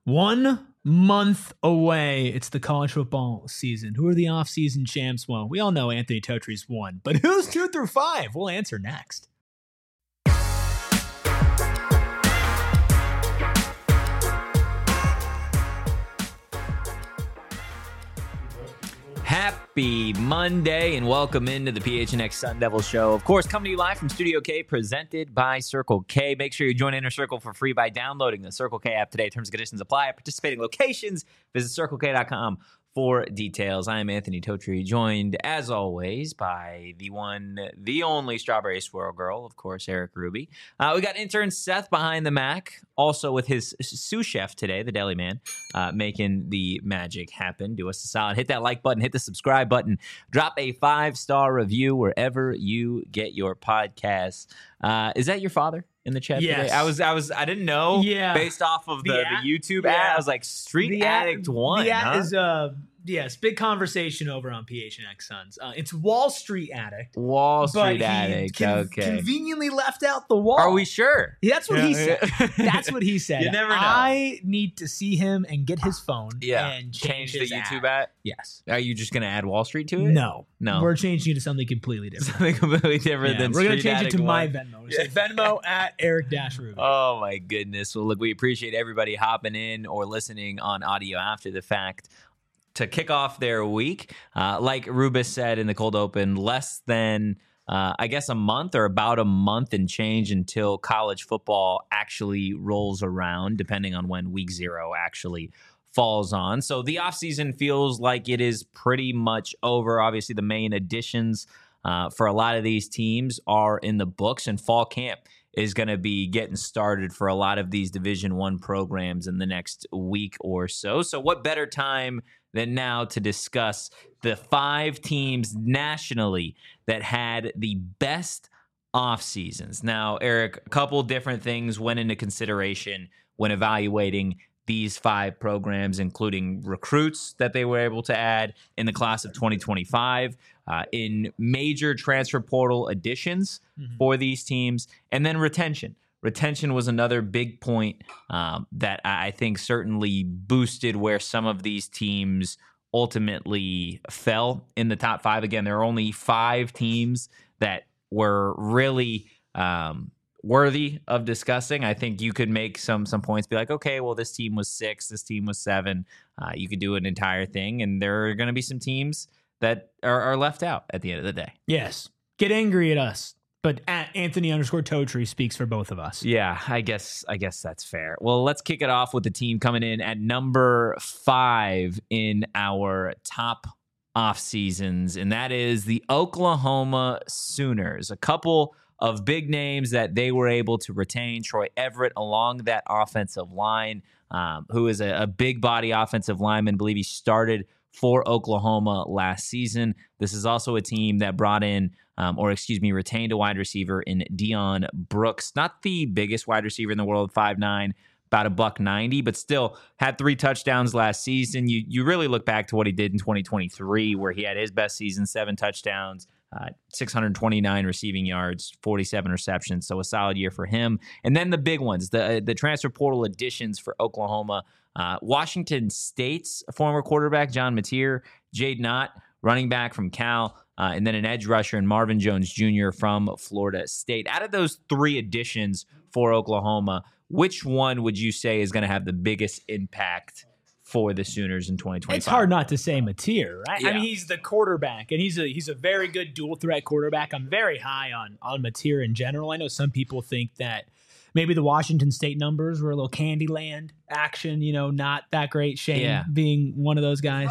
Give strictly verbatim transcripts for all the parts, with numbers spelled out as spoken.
One month away. It's the college football season. Who are the off-season champs? Well, we all know Anthony Totre's won, but who's two through five? We'll answer next. Happy Monday and welcome into the P H N X Sun Devil Show. Of course, coming to you live from Studio K, presented by Circle K. Make sure you join Inner Circle for free by downloading the Circle K app today. Terms and conditions apply at participating locations. Visit circle k dot com for details. I am Anthony Totre, joined as always by the one, the only Strawberry Swirl Girl, of course, Eric Ruby. Uh, we got intern Seth behind the Mac, also with his sous chef today, the Deli Man, uh, making the magic happen. Do us a solid. Hit that like button, hit the subscribe button, drop a five-star review wherever you get your podcasts. Uh, is that your father in the chat Yes. today? I was, I was, I didn't know. Yeah. Based off of the, The the, ad- YouTube yeah. ad, I was like, Street The ad- Addict One. The ad huh? is uh yes, big conversation over on P H N X Suns. Uh, it's Wall Street Addict. Wall But Street he Addict. con- okay. conveniently left out the wall. Are we sure? Yeah, that's what he Yeah. said. That's what he said. You never know. I need to see him and get his phone Yeah. and Change, change, the his YouTube ad. ad. Yes. Are you just going to add Wall Street to it? No. No. We're changing it to something completely different. Something completely different Yeah, than we're going to Street change it Addict to my one. Venmo. We say Venmo at Eric Dash Ruby. Oh, my goodness. Well, look, we appreciate everybody hopping in or listening on audio after the fact to kick off their week. Uh, like Rubus said in the cold open, less than, uh, I guess, a month or about a month and change until college football actually rolls around, depending on when week zero actually falls on. So the offseason feels like it is pretty much over. Obviously, the main additions uh, for a lot of these teams are in the books, and fall camp is going to be getting started for a lot of these Division One programs in the next week or so. So what better time than now to discuss the five teams nationally that had the best off seasons? Now, Eric, a couple different things went into consideration when evaluating these five programs, including recruits that they were able to add in the class of twenty twenty-five, uh, in major transfer portal additions Mhm. for these teams, and then retention. Retention was another big point um, that I think certainly boosted where some of these teams ultimately fell in the top five. Again, there are only five teams that were really um, worthy of discussing. I think you could make some some points, be like, okay, well, this team was six, this team was seven. Uh, you could do an entire thing, and there are going to be some teams that are, are left out at the end of the day. Yes. Get angry at us. But at Anthony underscore Totre speaks for both of us. Yeah, I guess I guess that's fair. Well, let's kick it off with the team coming in at number five in our top off seasons, and that is the Oklahoma Sooners. A couple of big names that they were able to retain. Troy Everett along that offensive line, um, who is a, a big body offensive lineman. I believe he started for Oklahoma last season. This is also a team that brought in, um, or excuse me, retained a wide receiver in Deion Brooks. Not the biggest wide receiver in the world, five nine, about a buck ninety, but still had three touchdowns last season. You you really look back to what he did in twenty twenty-three, where he had his best season, seven touchdowns, uh, six hundred twenty-nine receiving yards, forty-seven receptions. So a solid year for him. And then the big ones, the the transfer portal additions for Oklahoma. Uh, Washington State's former quarterback, John Mateer, Jade Knott, running back from Cal, uh, and then an edge rusher in Marvin Jones Junior from Florida State. Out of those three additions for Oklahoma, which one would you say is going to have the biggest impact for the Sooners in twenty twenty-five? It's hard not to say Mateer, right? Yeah. I mean, he's the quarterback, and he's a he's a very good dual threat quarterback. I'm very high on on Mateer in general. I know some people think that maybe the Washington State numbers were a little Candyland action, you know, not that great. Shane Yeah. being one of those guys.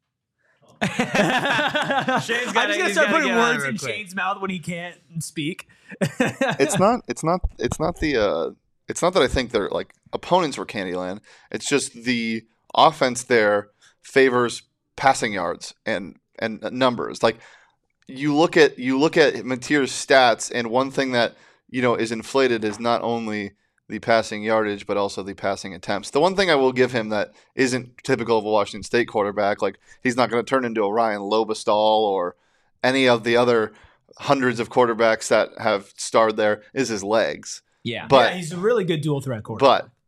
Shane's I'm gotta- just gonna he's start gotta putting get on it words real in quick. Shane's mouth when he can't speak. it's not it's not it's not the uh it's not that I think their like opponents were Candyland. It's just the offense there favors passing yards and and numbers. Like you look at you look at Mateer's stats, and one thing that you know is inflated is not only the passing yardage but also the passing attempts. The one thing I will give him that isn't typical of a Washington State quarterback, like he's not going to turn into a Ryan Lobestall or any of the other hundreds of quarterbacks that have starred there, is his legs. Yeah. But yeah, he's a really good dual threat quarterback. But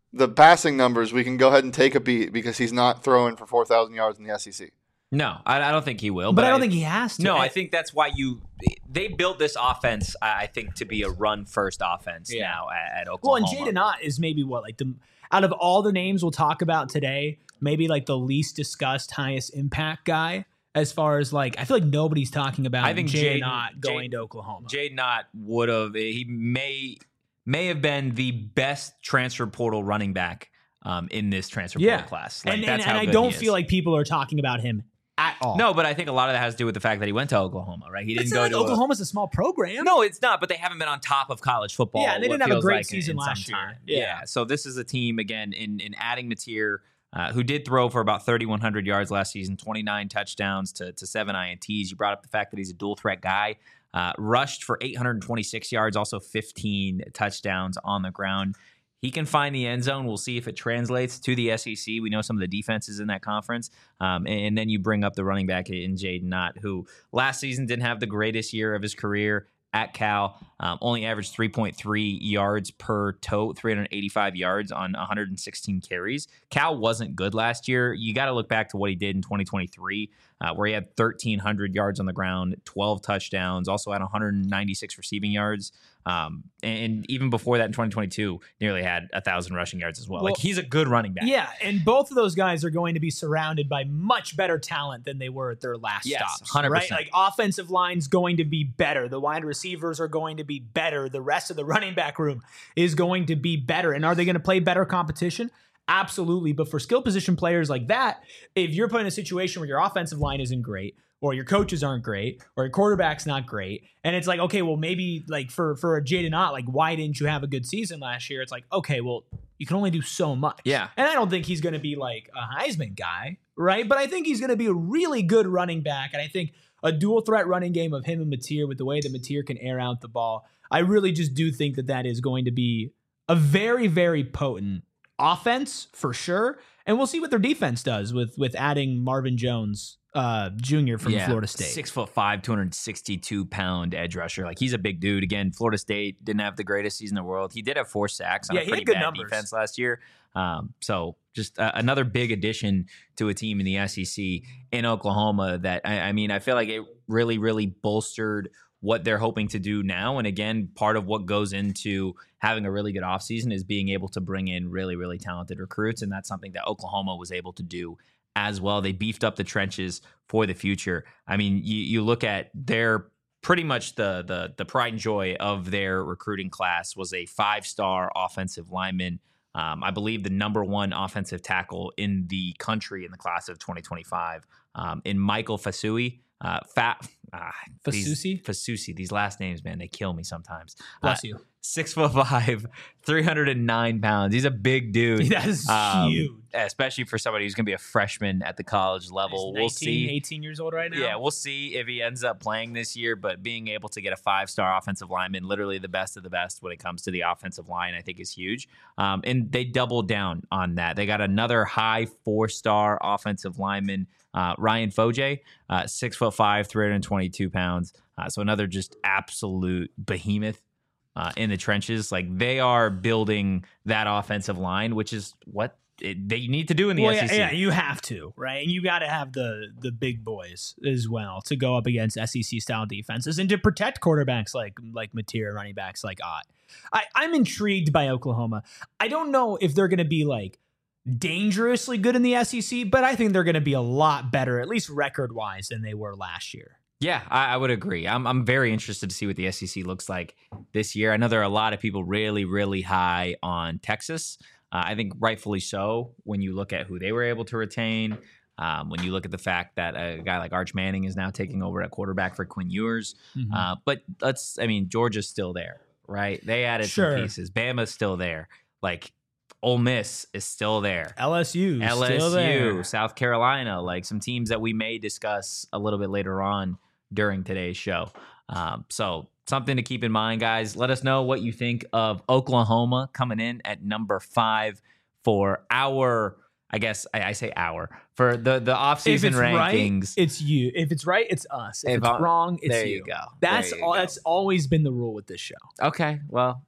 the passing numbers, we can go ahead and take a beat because he's not throwing for four thousand yards in the S E C. No, I, I don't think he will. But, But, I don't think he has to. No, I, I think that's why you they built this offense. I I think to be a run first offense Yeah. now at, at well, Oklahoma. and Jaden Ott is maybe what like the out of all the names we'll talk about today, maybe like the least discussed, highest impact guy. As far as like, I feel like nobody's talking about I think Jaden Jaden- Ott going Jaden- to Oklahoma. Jaden Ott would have. He may may have been the best transfer portal running back um, in this transfer Yeah. portal class. Like, and that's and, and how I good don't he feel is. like people are talking about him at all. No, but I think a lot of that has to do with the fact that he went to Oklahoma, right? He didn't it's go not like to a- Oklahoma's a small program. No, it's not. But they haven't been on top of college football. Yeah, and they what didn't have a feels great like in- season in some last year. time. Yeah. Yeah. So this is a team again in in adding Mateer, uh, who did throw for about thirty-one hundred yards last season, twenty-nine touchdowns to to seven I N Ts. You brought up the fact that he's a dual threat guy. Uh, rushed for eight hundred twenty-six yards, also fifteen touchdowns on the ground. He can find the end zone. We'll see if it translates to the S E C. We know some of the defenses in that conference. Um, and, and then you bring up the running back in Jaden Ott, who last season didn't have the greatest year of his career at Cal. Um, only averaged three point three yards per tote, three hundred eighty-five yards on one hundred sixteen carries. Cal wasn't good last year. You got to look back to what he did in twenty twenty-three, uh, where he had thirteen hundred yards on the ground, twelve touchdowns, also had one hundred ninety-six receiving yards. Um, and even before that in twenty twenty-two, nearly had a thousand rushing yards as well. Well, like he's a good running back. Yeah, and both of those guys are going to be surrounded by much better talent than they were at their last Yes, stops. one hundred right? percent. Like offensive line's going to be better. The wide receivers are going to be better. The rest of the running back room is going to be better. And are they going to play better competition? Absolutely. But for skill position players like that, if you're put in a situation where your offensive line isn't great, or your coaches aren't great, or your quarterback's not great, and it's like, okay, well, maybe like for for a Jaden Ott, like why didn't you have a good season last year? It's like, okay, well, you can only do so much. Yeah. And I don't think he's going to be like a Heisman guy, right? But I think he's going to be a really good running back, and I think a dual threat running game of him and Mateer with the way that Mateer can air out the ball, I really just do think that that is going to be a very, very potent offense for sure. And we'll see what their defense does with with adding Marvin Jones uh, Junior from Yeah, Florida State. Six foot five, two hundred sixty-two pound edge rusher. Like he's a big dude. Again, Florida State didn't have the greatest season in the world. He did have four sacks on Yeah, a he had pretty good bad numbers. defense last year. Um, so just uh, another big addition to a team in the S E C in Oklahoma. That I, I mean, I feel like it really, really bolstered what they're hoping to do now. And again, part of what goes into having a really good offseason is being able to bring in really, really talented recruits. And that's something that Oklahoma was able to do as well. They beefed up the trenches for the future. I mean, you, you look at their pretty much the, the the pride and joy of their recruiting class was a five-star offensive lineman. Um, I believe the number one offensive tackle in the country in the class of twenty twenty-five um, in Michael Fasui. Uh, Fat ah, Fasusi? Fasusi. These last names, man, they kill me sometimes. Bless Uh, you. Six foot five, three hundred nine pounds. He's a big dude. That is Um, huge. Especially for somebody who's going to be a freshman at the college level. He's We'll nineteen, see. eighteen years old right now. Yeah, we'll see if he ends up playing this year, but being able to get a five-star offensive lineman, literally the best of the best when it comes to the offensive line, I think is huge. Um, and they doubled down on that. They got another high four-star offensive lineman, uh, Ryan Foje, uh, six foot five, three hundred twenty-two pounds. Uh, so another just absolute behemoth uh, in the trenches. Like they are building that offensive line, which is what it, they need to do in the Well, S E C. yeah, yeah, you have to, right? And you got to have the the big boys as well to go up against S E C style defenses and to protect quarterbacks like like Mateer, running backs like Ott. I, I'm intrigued by Oklahoma. I don't know if they're going to be like dangerously good in the S E C, but I think they're going to be a lot better, at least record wise, than they were last year. Yeah, I, I would agree. I'm I'm very interested to see what the S E C looks like this year. I know there are a lot of people really, really high on Texas. Uh, I think rightfully so when you look at who they were able to retain. Um, when you look at the fact that a guy like Arch Manning is now taking over at quarterback for Quinn Ewers. Mhm. Uh, but let's, I mean, Georgia's still there, right? They added Sure. some pieces. Bama's still there. Like Ole Miss is still there. L S U, L S U, still there. South Carolina, like some teams that we may discuss a little bit later on during today's show. Um, so something to keep in mind, guys. Let us know what you think of Oklahoma coming in at number five for our, I guess I, I say our, for the, the If offseason it's right, rankings. it's you. If it's right, it's us. If, If it's I- wrong, it's there you. you go. That's There you all. go. That's always been the rule with this show. Okay, well,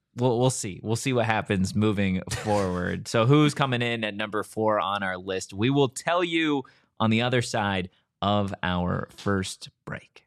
we'll we'll see. We'll see what happens moving forward. So who's coming in at number four on our list? We will tell you on the other side of our first break.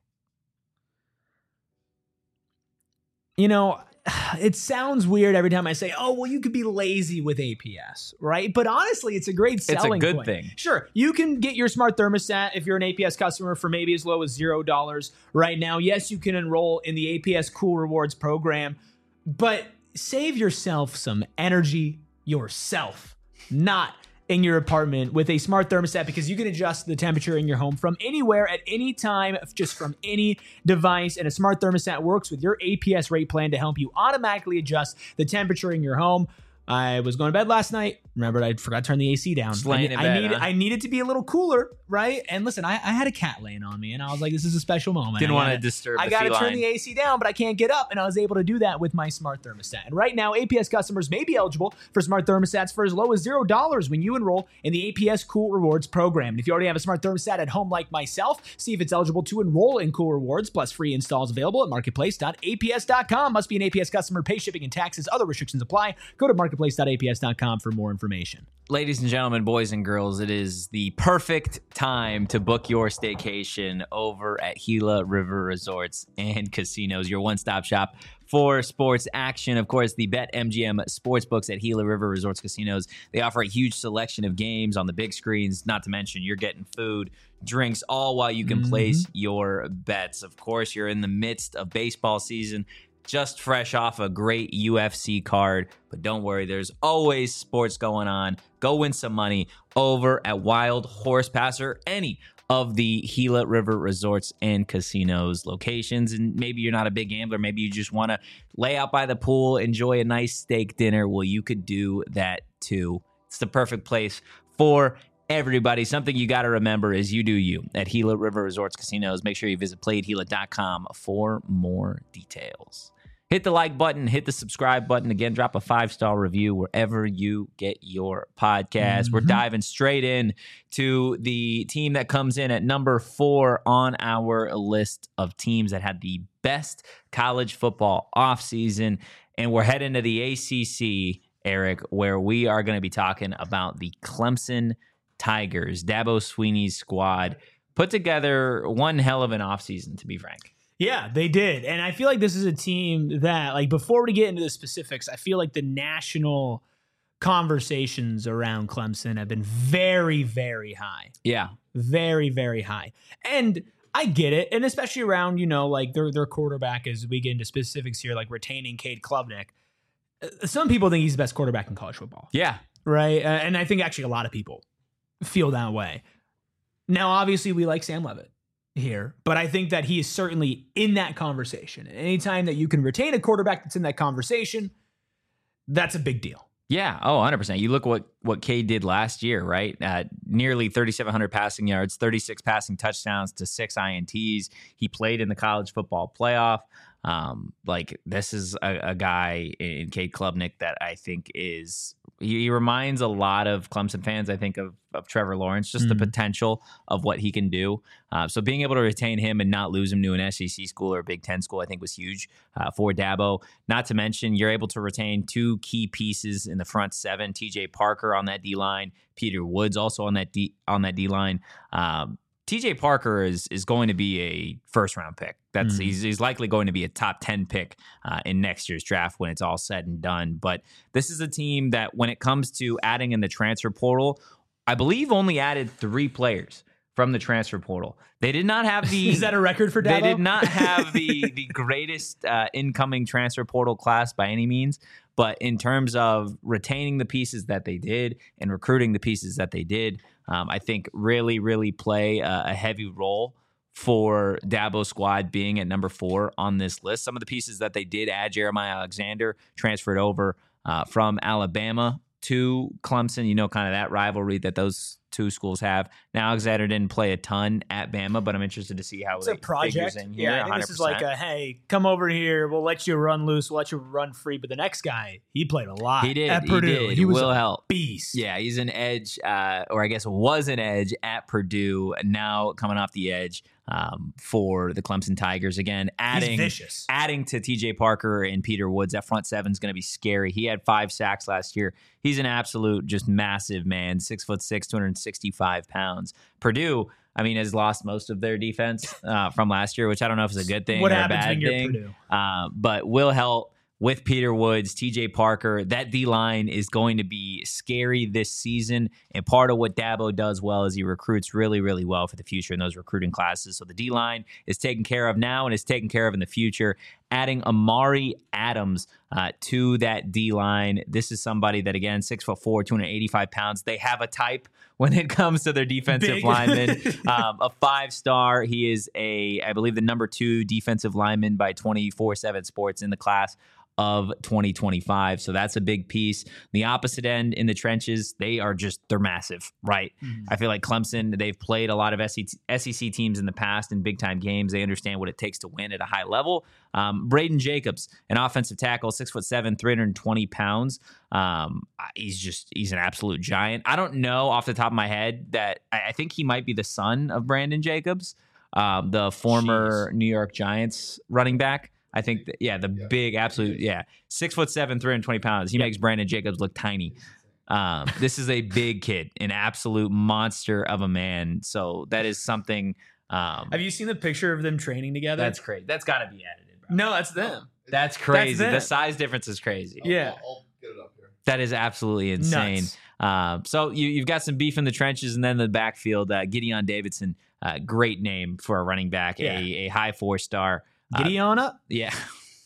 You know, it sounds weird every time I say, oh, well, you could be lazy with A P S, right? But honestly, it's a great selling It's a good point. thing. Sure, you can get your smart thermostat if you're an A P S customer for maybe as low as zero dollars right now. Yes, you can enroll in the A P S Cool Rewards program, but save yourself some energy yourself, not in your apartment with a smart thermostat, because you can adjust the temperature in your home from anywhere at any time, just from any device. And a smart thermostat works with your A P S rate plan to help you automatically adjust the temperature in your home. I was going to bed last night. Remembered I forgot to turn the A C down. Just laying I, in I bed, needed, huh? I needed to be a little cooler, right? And listen, I, I had a cat laying on me, and I was like, "This is a special moment." Didn't I want to gotta- disturb I the got to feline. turn the A C down, but I can't get up, and I was able to do that with my smart thermostat. And right now, A P S customers may be eligible for smart thermostats for as low as zero dollars when you enroll in the A P S Cool Rewards program. And if you already have a smart thermostat at home, like myself, see if it's eligible to enroll in Cool Rewards. Plus, free installs available at marketplace dot A P S dot com. Must be an A P S customer. Pay shipping and taxes. Other restrictions apply. Go to marketplace dot A P S dot com for more information. Ladies and gentlemen, boys and girls, it is the perfect time to book your staycation over at Gila River Resorts and Casinos, your one-stop shop for sports action. Of course, the BetMGM Sportsbooks at Gila River Resorts Casinos, they offer a huge selection of games on the big screens, not to mention you're getting food, drinks, all while you can Mhm. place your bets. Of course, you're in the midst of baseball season, just fresh off a great U F C card. But don't worry, there's always sports going on. Go win some money over at Wild Horse Pass or any of the Gila River Resorts and Casinos locations. And maybe you're not a big gambler. Maybe you just want to lay out by the pool, enjoy a nice steak dinner. Well, you could do that too. It's the perfect place for everybody. Something you got to remember is you do you at Gila River Resorts Casinos. Make sure you visit play at gila dot com for more details. Hit the like button, hit the subscribe button. Again, drop a five-star review wherever you get your podcast. Mm-hmm. We're diving straight in to the team that comes in at number four on our list of teams that had the best college football offseason. And we're heading to the A C C, Eric, where we are going to be talking about the Clemson Tigers. Dabo Swinney's squad put together one hell of an offseason, to be frank. Yeah, they did. And I feel like this is a team that, like, before we get into the specifics, I feel like the national conversations around Clemson have been very, very high. Yeah. Very, very high. And I get it. And especially around, you know, like their their quarterback, as we get into specifics here, like retaining Cade Klubnik. Uh, Some people think he's the best quarterback in college football. Yeah. Right? Uh, and I think actually a lot of people feel that way. Now, obviously, we like Sam Levitt here, but I think that he is certainly in that conversation. And anytime that you can retain a quarterback that's in that conversation, that's a big deal. Yeah. Oh, one hundred percent. You look what, what Cade did last year, right? Uh, nearly thirty-seven hundred passing yards, thirty-six passing touchdowns to six I N Ts. He played in the college football playoff. Um, like, this is a, a guy in Cade Klubnik that I think is, he, he reminds a lot of Clemson fans, I think, of, of Trevor Lawrence, just the Mhm. potential of what he can do. Uh, so being able to retain him and not lose him to an S E C school or a Big Ten school, I think was huge uh, for Dabo. Not to mention, you're able to retain two key pieces in the front seven, T J Parker on that D-line, Peter Woods also on that D on that D-line. Um, T J Parker is is going to be a first round pick. That's Mhm. he's, he's likely going to be a top ten pick uh, in next year's draft when it's all said and done. But this is a team that, when it comes to adding in the transfer portal, I believe only added three players from the transfer portal. They did not have the Is that a record for Dabo? they did not have the the greatest uh, incoming transfer portal class by any means, but in terms of retaining the pieces that they did and recruiting the pieces that they did, um, I think really, really play a, a heavy role for Dabo's squad being at number four on this list. Some of the pieces that they did add, Jeremiah Alexander transferred over uh, from Alabama to Clemson. You know, kind of that rivalry that those two schools have. Now, Alexander didn't play a ton at Bama, but I'm interested to see how It's it a project. figures in here. Yeah, I think this is like a, hey, come over here. We'll let you run loose. We'll let you run free. But the next guy, he played a lot. He did. At He Purdue. did. He was Will a help. beast. Yeah, he's an edge, uh, or I guess was an edge at Purdue. Now coming off the edge um, for the Clemson Tigers again, adding He's vicious. adding to T J Parker and Peter Woods. That front seven is going to be scary. He had five sacks last year. He's an absolute, just massive man. Six foot six, two hundred sixty-five pounds. Purdue, I mean, has lost most of their defense uh, from last year, which I don't know if it's a good thing What or a happens bad when you're thing. Purdue? Uh, but will help. With Peter Woods, T J Parker, that D-line is going to be scary this season. And part of what Dabo does well is he recruits really, really well for the future in those recruiting classes. So the D-line is taken care of now and is taken care of in the future. Adding Amari Adams uh, to that D-line. This is somebody that, again, six foot four, two hundred eighty-five pounds. They have a type when it comes to their defensive Big. lineman. Um, a five-star. He is a, I believe, the number two defensive lineman by twenty-four seven Sports in the class of twenty twenty-five. So that's a big piece. The opposite end in the trenches, they are just, they're massive, right? Mm. I feel like Clemson, they've played a lot of S E C teams in the past in big time games. They understand what it takes to win at a high level. Um, Braden Jacobs, an offensive tackle, six foot seven, three hundred twenty pounds. Um, he's just, he's an absolute giant. I don't know off the top of my head that I, I think he might be the son of Brandon Jacobs, um, the former Jeez. New York Giants running back. I think, that, yeah, the Yeah. big, absolute, yeah, six foot seven, three hundred twenty pounds. He Yep. makes Brandon Jacobs look tiny. Um, this is a big kid, an absolute monster of a man. So that is something. Um, Have you seen the picture of them training together? that's crazy. That's got to be edited, bro. no, that's them. That's crazy. them. The size difference is crazy. Yeah. I'll, I'll get it up here. That is absolutely insane. Nuts. Um, so you, you've got some beef in the trenches, and then the backfield. Uh, Gideon Davidson, uh, great name for a running back, Yeah. a, a high four star. Uh, Giddy on up. Yeah.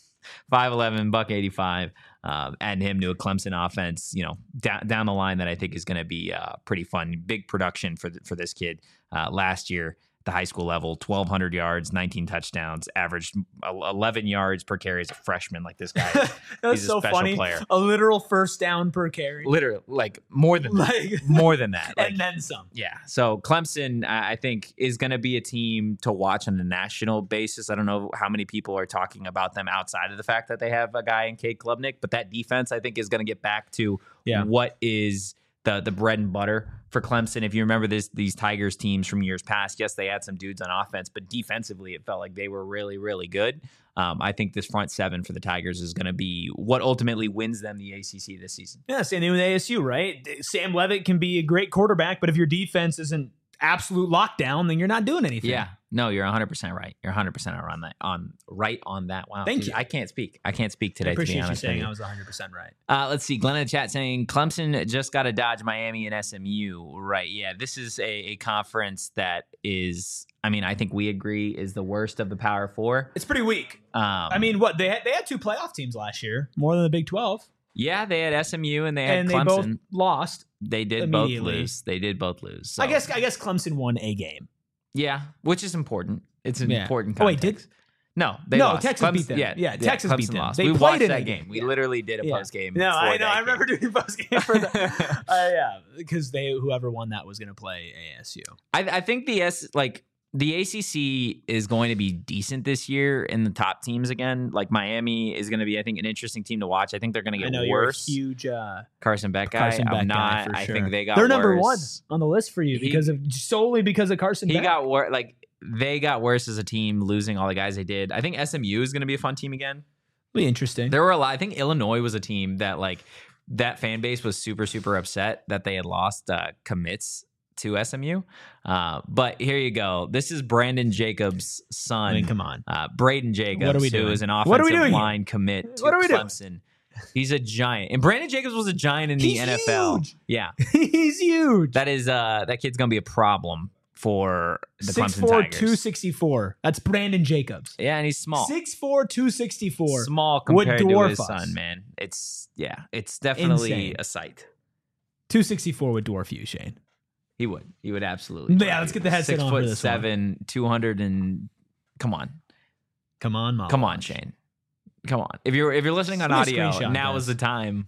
five eleven, buck eighty-five, um, adding him to a Clemson offense, you know, down, down the line that I think is going to be uh, pretty fun. Big production for th- for this kid uh, last year. The high school level, twelve hundred yards, nineteen touchdowns, averaged eleven yards per carry as a freshman. Like this guy, is, That's he's a so special funny. player. A literal first down per carry. Literally, like more than that. Like, more than that. Like, and then some. yeah. So Clemson, I I think, is going to be a team to watch on a national basis. I don't know how many people are talking about them outside of the fact that they have a guy in Cade Klubnik, but that defense, I think, is going to get back to Yeah. what is the the bread and butter for Clemson. If you remember this, these Tigers teams from years past, yes, they had some dudes on offense, but defensively, it felt like they were really, really good. Um, I think this front seven for the Tigers is going to be what ultimately wins them the A C C this season. Yeah, same thing with A S U, right? Sam Levitt can be a great quarterback, but if your defense isn't absolute lockdown, then you're not doing anything. Yeah, no, you're one hundred percent right. You're one hundred percent on that. On right on that. Wow, Thank dude, you. I can't speak. I can't speak I today. To be appreciate you honest saying with I was one hundred percent right. Uh, let's see. Glenn in the chat saying Clemson just got to dodge Miami and S M U. Right. Yeah. This is a, a conference that is, I mean, I think we agree is the worst of the Power Four. It's pretty weak. Um, I mean, what they had, they had two playoff teams last year, more than the Big twelve, yeah, they had S M U and they had and Clemson. they both lost. They did both immediately. lose. They did both lose. So, I guess I guess Clemson won a game. Yeah, which is important. It's an Yeah. important Oh, wait, context. did- No, they No, lost. Texas Clemson, beat them. Yeah, Yeah, Texas beat Clemson them. lost. They we played watched in that a game. game. We Yeah. literally did a Yeah. post game. No, I know. I game. remember doing post game for the. uh, yeah, because they whoever won that was going to play A S U. I, I think the S like the A C C is going to be decent this year in the top teams again. Like Miami is going to be, I think, an interesting team to watch. I think they're going to I get know worse. you're a huge uh, Carson Beck guy. Carson Beck I'm guy not. for I sure. think they got. They're number worse. one on the list for you He- because of solely because of Carson. He Beck. got worse. Like they got worse as a team, losing all the guys they did. I think S M U is going to be a fun team again. Be interesting. There were a lot. I think Illinois was a team that like that fan base was super super upset that they had lost uh, commits to S M U. Uh, but here you go. This is Brandon Jacobs' son. I mean, come on. Uh, Braden Jacobs, What are we who doing? is an What are we offensive doing here? line commit to What are we doing? Clemson. He's a giant, and Brandon Jacobs was a giant in the He's N F L. huge. Yeah, He's huge. that is uh, that kid's gonna be a problem for the six Clemson four, Tigers. two sixty-four. That's Brandon Jacobs. Yeah, and he's small, six four, two sixty-four. small would compared to dwarf his us. son. Man, it's yeah, it's definitely Insane. a sight. two sixty-four would dwarf you, Shane. He would. He would absolutely. Yeah, dwarf let's you. get the headset Six on foot for this one. seven, two hundred and come on, Come on, Mom. come on, Shane, come on. If you're if you're listening on Send me a audio, screenshot, now guys. is the time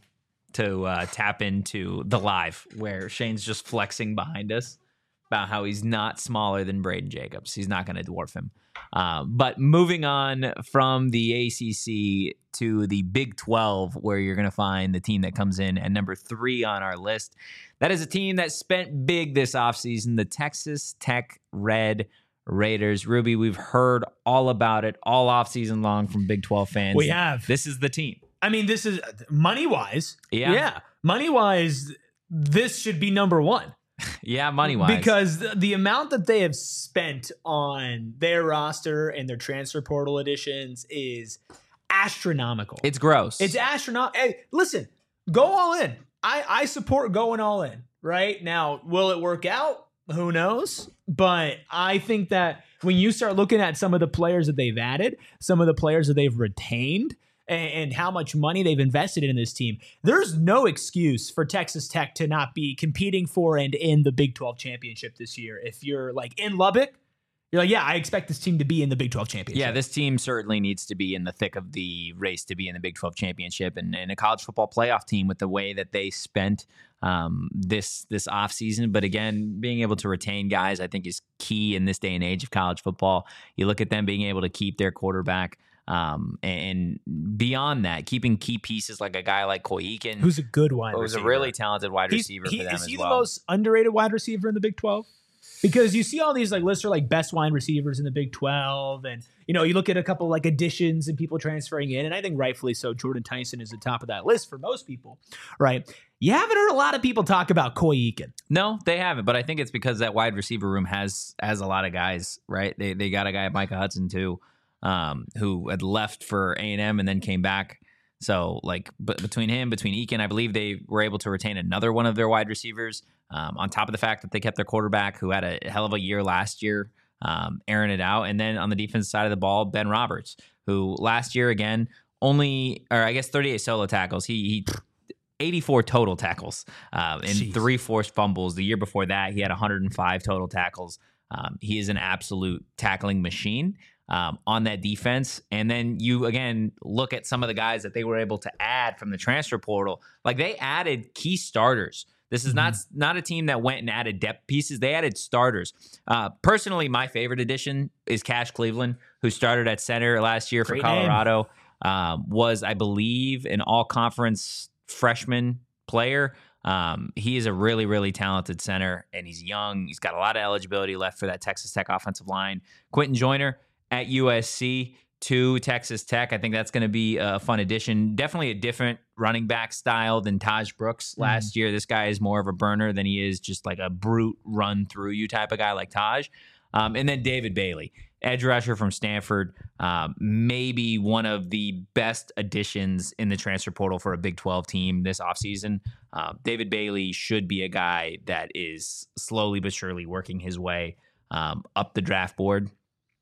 to uh, tap into the live where Shane's just flexing behind us about how he's not smaller than Braden Jacobs. He's not going to dwarf him. Uh, but moving on from the A C C to the Big twelve, where you're going to find the team that comes in at number three on our list. That is a team that spent big this offseason, the Texas Tech Red Raiders. Ruby, we've heard all about it all offseason long from Big twelve fans. We have. This is the team. I mean, this is money-wise. Yeah. Yeah. Money-wise, this should be number one. Yeah, money-wise. Because the, the amount that they have spent on their roster and their transfer portal additions is astronomical. It's gross. It's astronomical. Hey, listen, go all in. I, I support going all in, right? Now, will it work out? Who knows? But I think that when you start looking at some of the players that they've added, some of the players that they've retained, and how much money they've invested in this team, there's no excuse for Texas Tech to not be competing for and in the Big twelve championship this year. If you're like in Lubbock, you're like, yeah, I expect this team to be in the Big twelve championship. Yeah, this team certainly needs to be in the thick of the race to be in the Big twelve championship and, and a college football playoff team with the way that they spent um, this this offseason. But again, being able to retain guys, I think, is key in this day and age of college football. You look at them being able to keep their quarterback. Um, and beyond that, keeping key pieces like a guy like Coy Eakin, who's a good wide who's receiver. a really talented wide He's, receiver he, for them is as he well. the most underrated wide receiver in the Big twelve? Because you see all these like lists are like best wide receivers in the Big twelve, and you know you look at a couple like additions and people transferring in, and I think rightfully so. Jordan Tyson is the top of that list for most people, right? You haven't heard a lot of people talk about Coy Eakin. No, they haven't, but I think it's because that wide receiver room has has a lot of guys, right? They they got a guy, Micah Hudson too. Um, who had left for A and M and then came back. So, like, but between him, between Eakin, I believe they were able to retain another one of their wide receivers. Um, on top of the fact that they kept their quarterback, who had a hell of a year last year, um, airing it out. And then on the defense side of the ball, Ben Roberts, who last year again only, or I guess thirty-eight solo tackles. He he. eighty-four total tackles uh, and Jeez. three forced fumbles. The year before that, he had one hundred five total tackles. Um, he is an absolute tackling machine. Um, on that defense. And then you, again, look at some of the guys that they were able to add from the transfer portal. Like, they added key starters. This is mm-hmm. not not a team that went and added depth pieces. They added starters. Uh, personally, my favorite addition is Cash Cleveland, who started at center last year Great for Colorado. Um, was, I believe, an all-conference freshman player. Um, he is a really, really talented center, and he's young. He's got a lot of eligibility left for that Texas Tech offensive line. Quentin Joyner at U S C to Texas Tech. I think that's going to be a fun addition. Definitely a different running back style than Taj Brooks last mm. year. This guy is more of a burner than he is just like a brute run through you type of guy like Taj. Um, and then David Bailey, edge rusher from Stanford, um, maybe one of the best additions in the transfer portal for a Big twelve team this offseason. Uh, David Bailey should be a guy that is slowly but surely working his way um, up the draft board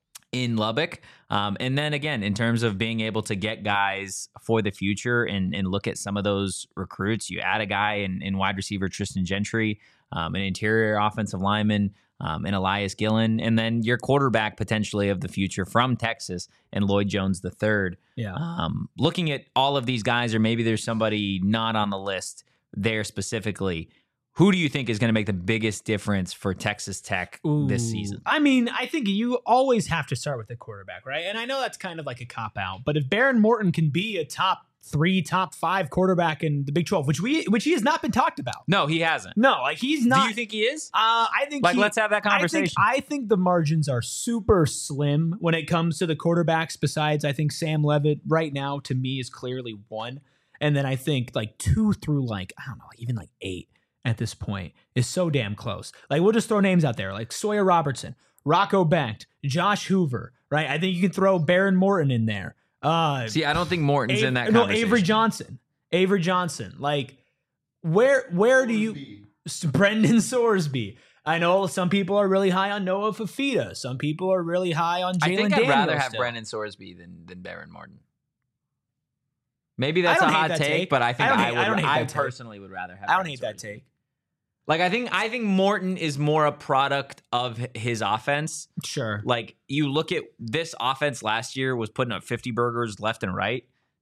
in Lubbock. Um, and then again, in terms of being able to get guys for the future and, and look at some of those recruits, you add a guy in, in wide receiver Tristan Gentry, um, an interior offensive lineman, um, and Elias Gillen, and then your quarterback potentially of the future from Texas and Lloyd Jones the third. Yeah. Um, looking at all of these guys, or maybe there's somebody not on the list there specifically, who do you think is going to make the biggest difference for Texas Tech Ooh, this season? I mean, I think you always have to start with the quarterback, right? And I know that's kind of like a cop-out, but if Baron Morton can be a top three, top five quarterback in the Big twelve, which we which he has not been talked about. No, he hasn't. No, like he's not. Do you think he is? Uh, I think like he, let's have that conversation. I think, I think the margins are super slim when it comes to the quarterbacks. Besides, I think Sam Levitt right now to me is clearly one, and then I think like two through like I don't know, even like eight at this point is so damn close. Like we'll just throw names out there like Sawyer Robertson, Rocco Becht, Josh Hoover, right? I think you can throw Baron Morton in there. Uh, See, I don't think Morton's A- in that no, conversation. Avery Johnson. Avery Johnson. Like, where where do you... Brendan Sorsby. I know some people are really high on Noah Fafita. Some people are really high on Jalen I think Daniels I'd rather have still. Brendan Sorsby than, than Baron Morton. Maybe that's a hot take, take, but I think I, I, hate, would. I, don't hate I that personally take. would rather have. I don't Brendan hate that Sorsby. take. Like I think I think Morton is more a product of his offense. Sure. Like you look at this offense last year was putting up fifty burgers left and right.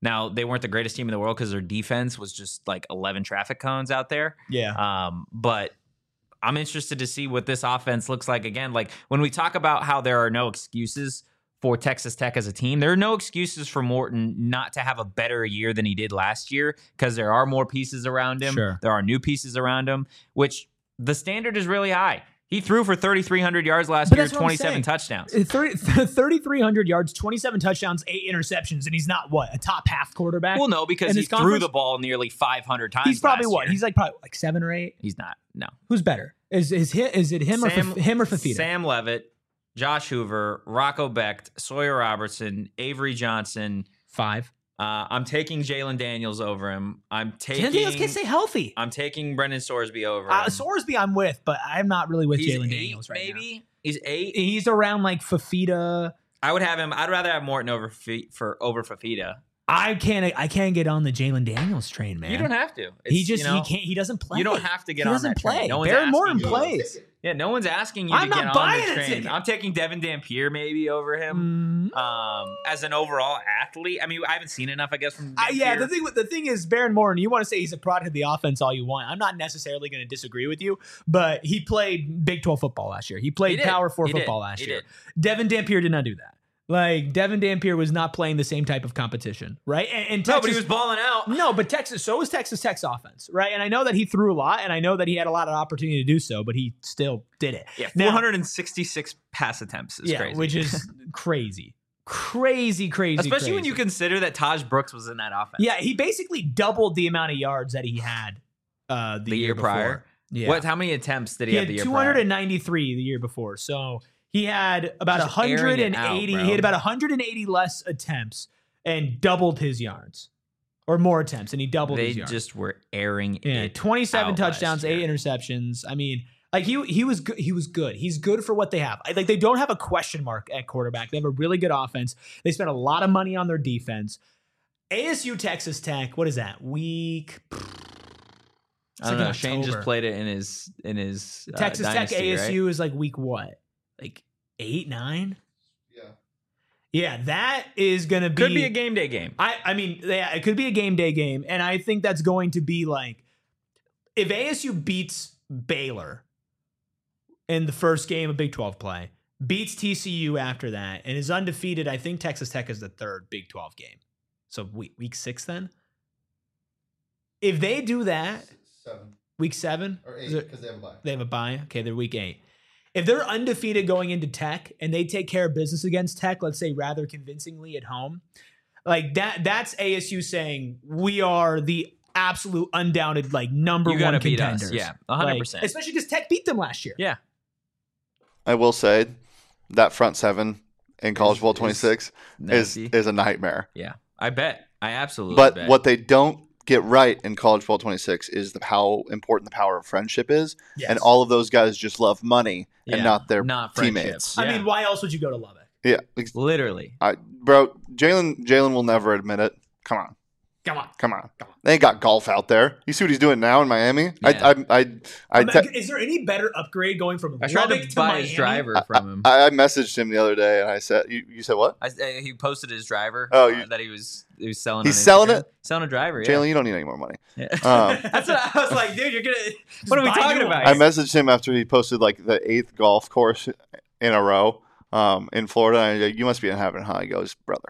Now, they weren't the greatest team in the world because their defense was just like eleven traffic cones out there. Yeah. Um, but I'm interested to see what this offense looks like again. Like when we talk about how there are no excuses for Texas Tech as a team, there are no excuses for Morton not to have a better year than he did last year because there are more pieces around him. Sure. There are new pieces around him, which the standard is really high. He threw for thirty-three hundred yards last But year, that's what I'm twenty-seven saying. touchdowns. thirty-three hundred yards, twenty-seven touchdowns, eight interceptions, and he's not what a top half quarterback. Well, no, because In he this threw conference? the ball nearly five hundred times. he's probably last what? year. He's like probably like seven or eight. He's not. No. Who's better? Is is hi- is it him Sam- or Faf- him or Fafita? Sam Levitt, Josh Hoover, Rocco Becht, Sawyer Robertson, Avery Johnson. Five. Uh, I'm taking Jalen Daniels over him. I'm taking. Jalen Daniels can't stay healthy. I'm taking Brendan Sorsby over Uh, him. Sorsby, I'm with, but I'm not really with He's Jalen eight, Daniels right now. maybe he's eight. He's around like Fafita. I would have him. I'd rather have Morton over Fa- for over Fafita. I can't. I can't get on the Jalen Daniels train, man. You don't have to. He It's, just you know, he can't. He doesn't play. You don't have to get He on doesn't that play. train. No one's Baron asking Morton you. plays. Yeah, no one's asking you I'm to not get on buying the a train. ticket. I'm taking Devin Dampier maybe over him. Mm. Um, as an overall athlete, I mean, I haven't seen enough, I guess, from Uh, Dampier. yeah, the thing with the thing is, Baron Morton. You want to say he's a product of the offense all you want. I'm not necessarily going to disagree with you, but he played Big twelve football last year. He played He did. Power Four He did. football last He year. did. Devin Dampier did not do that. Like Devin Dampier was not playing the same type of competition, right? And, and Texas, No, but he was balling out. No, but Texas, so was Texas Tech's offense, right? And I know that he threw a lot, and I know that he had a lot of opportunity to do so, but he still did it. Yeah, Now- four hundred sixty-six pass attempts is yeah, crazy. which is crazy, crazy, crazy. Especially when crazy. you consider that Taj Brooks was in that offense. Yeah, he basically doubled the amount of yards that he had uh, the, The year before. prior? Yeah, What? How many attempts did he, he have had the year two prior? hundred ninety-three the year before. So he had about Just airing one it out, eighty. bro. he had about one hundred eighty less attempts and doubled his yards, or more attempts, and he doubled They his yards. just were airing Yeah, it. twenty-seven out last touchdowns, eight year. interceptions. I mean, like he he was good. He was good. He's good for what they have. I- Like they don't have a question mark at quarterback. They have a really good offense. They spent a lot of money on their defense. A S U Texas Tech. What is that week? I don't like in know. Shane just October. played it in his in his uh, Texas Tech dynasty, A S U right? is like week what? Like eight, nine? Yeah. Yeah, that is gonna be Could be a game day game. I, I mean, yeah, it could be a game day game, and I think that's going to be like if A S U beats Baylor in the first game of Big twelve play, beats T C U after that, and is undefeated. I think Texas Tech is the third Big twelve game. So week week six then. If they do that, Seven week seven, or is eight it- because they have a bye. they have a bye. Okay, they're week eight. If they're undefeated going into Tech and they take care of business against Tech, let's say rather convincingly at home, like that, that's A S U saying we are the absolute undoubted like number You one gotta beat contenders. us. Yeah, one hundred percent. Like, especially because Tech beat them last year. Yeah. I will say that front seven in College Is- Bowl is twenty-six is nasty. is a nightmare. Yeah. I bet. I absolutely But bet. what they don't get right in College Bowl twenty-six is the how important the power of friendship is, Yes. and all of those guys just love money and Yeah, not their not teammates. friendships. I Yeah. mean, why else would you go to Lubbock? Yeah, ex- Literally. I, bro, Jalen Jalen will never admit it. Come on, Come on. come on. Come on. They ain't got golf out there. You see what he's doing now in Miami? Yeah. I, I, I, I, I mean, te- is there any better upgrade going from I tried Lubbock to to, buy Miami? his driver from him. I, I messaged him the other day and I said, "You, you said what? I, uh, he posted his driver. Oh, uh, you- that he was he was selling. He's on selling Instagram. it? Selling a driver. Yeah. Jalen, you don't need any more money." Yeah. Um, That's what I was like, dude. You're gonna. Just What are we buy talking new about? I ones. messaged him after he posted like the eighth golf course in a row um, in Florida. And I go, "You must be in heaven, huh?" He goes, "Brother."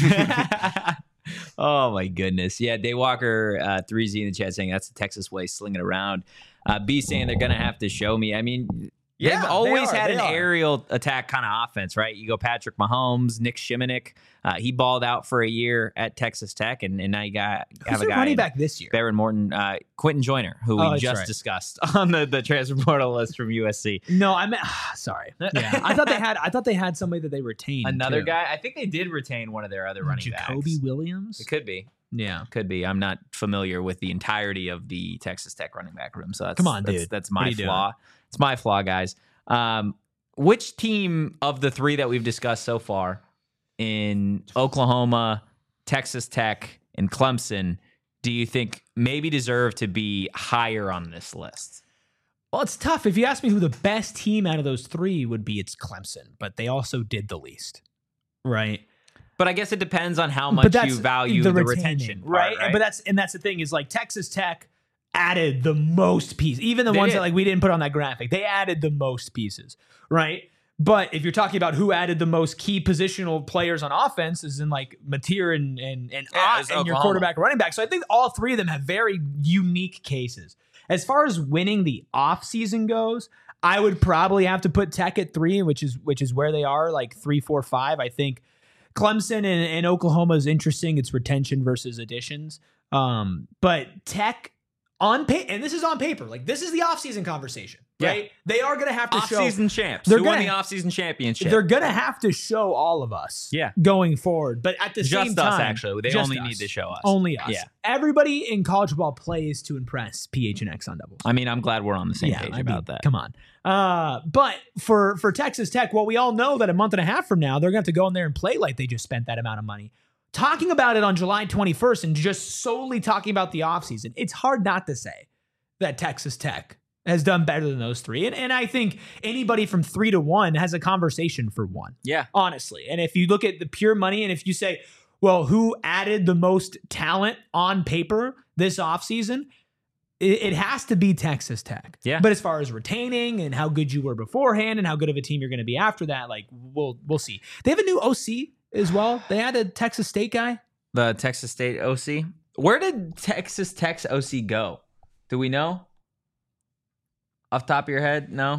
Oh my goodness. Yeah, Daywalker uh, three Z in the chat saying that's the Texas way, slinging around. Uh, B saying they're gonna have to show me. I mean, Yeah, they've always they are, had they an are. aerial attack kind of offense, right? You go Patrick Mahomes, Nick Shimonik. Uh, he balled out for a year at Texas Tech, and, and now you got Who's have a their guy running in back this year? Baron Morton, uh, Quentin Joyner, who Oh, we that's just right. discussed on the, the transfer portal list from U S C. No, I meant sorry. Yeah, I thought they had. I thought they had somebody that they retained. Another too. guy. I think they did retain one of their other running Jacoby backs. Williams. It could be. Yeah. Could be. I'm not familiar with the entirety of the Texas Tech running back room, so that's Come on, that's, dude. That's What are my you doing? flaw. It's my flaw, guys. Um, which team of the three that we've discussed so far in Oklahoma, Texas Tech, and Clemson do you think maybe deserve to be higher on this list? Well, it's tough. If you ask me who the best team out of those three would be, it's Clemson, but they also did the least, right? But I guess it depends on how But much that's you value the the, retaining, retention, part, right? right? But that's and that's the thing is like Texas Tech added the most pieces, even the They ones did. that like we didn't put on that graphic. They added the most pieces, right? But if you're talking about who added the most key positional players on offense, is in like Mateer and and and, Yeah, Ott it's and your Oklahoma. quarterback and running back. So I think all three of them have very unique cases. As far as winning the offseason goes, I would probably have to put Tech at three, which is which is where they are, like three, four, five. I think Clemson and, and Oklahoma is interesting. It's retention versus additions. Um, but Tech on paper, and this is on paper, like this is the offseason conversation, Yeah. right? They are going to have to show. Off-season champs. They're Who won gonna- the off-season championship? They're going to have to show all of us Yeah. going forward. But at the Just same us, time, actually. They just only us. need to show us. Only us. Yeah. Everybody in college football plays to impress P H N X on doubles. I mean, I'm glad we're on the same Yeah, page I mean, about that. Come on. Uh, but for for Texas Tech, well, we all know that a month and a half from now, they're going to have to go in there and play like they just spent that amount of money. Talking about it on July twenty-first and just solely talking about the offseason, it's hard not to say that Texas Tech has done better than those three. And, and I think anybody from three to one has a conversation for one, Yeah. honestly. And if you look at the pure money and if you say, well, who added the most talent on paper this offseason? It, it has to be Texas Tech. Yeah. But as far as retaining and how good you were beforehand and how good of a team you're going to be after that, like we'll we'll see. They have a new O C as well. They had a Texas State guy. The Texas State O C. Where did Texas Tech's O C go? Do we know? Off the top of your head? No?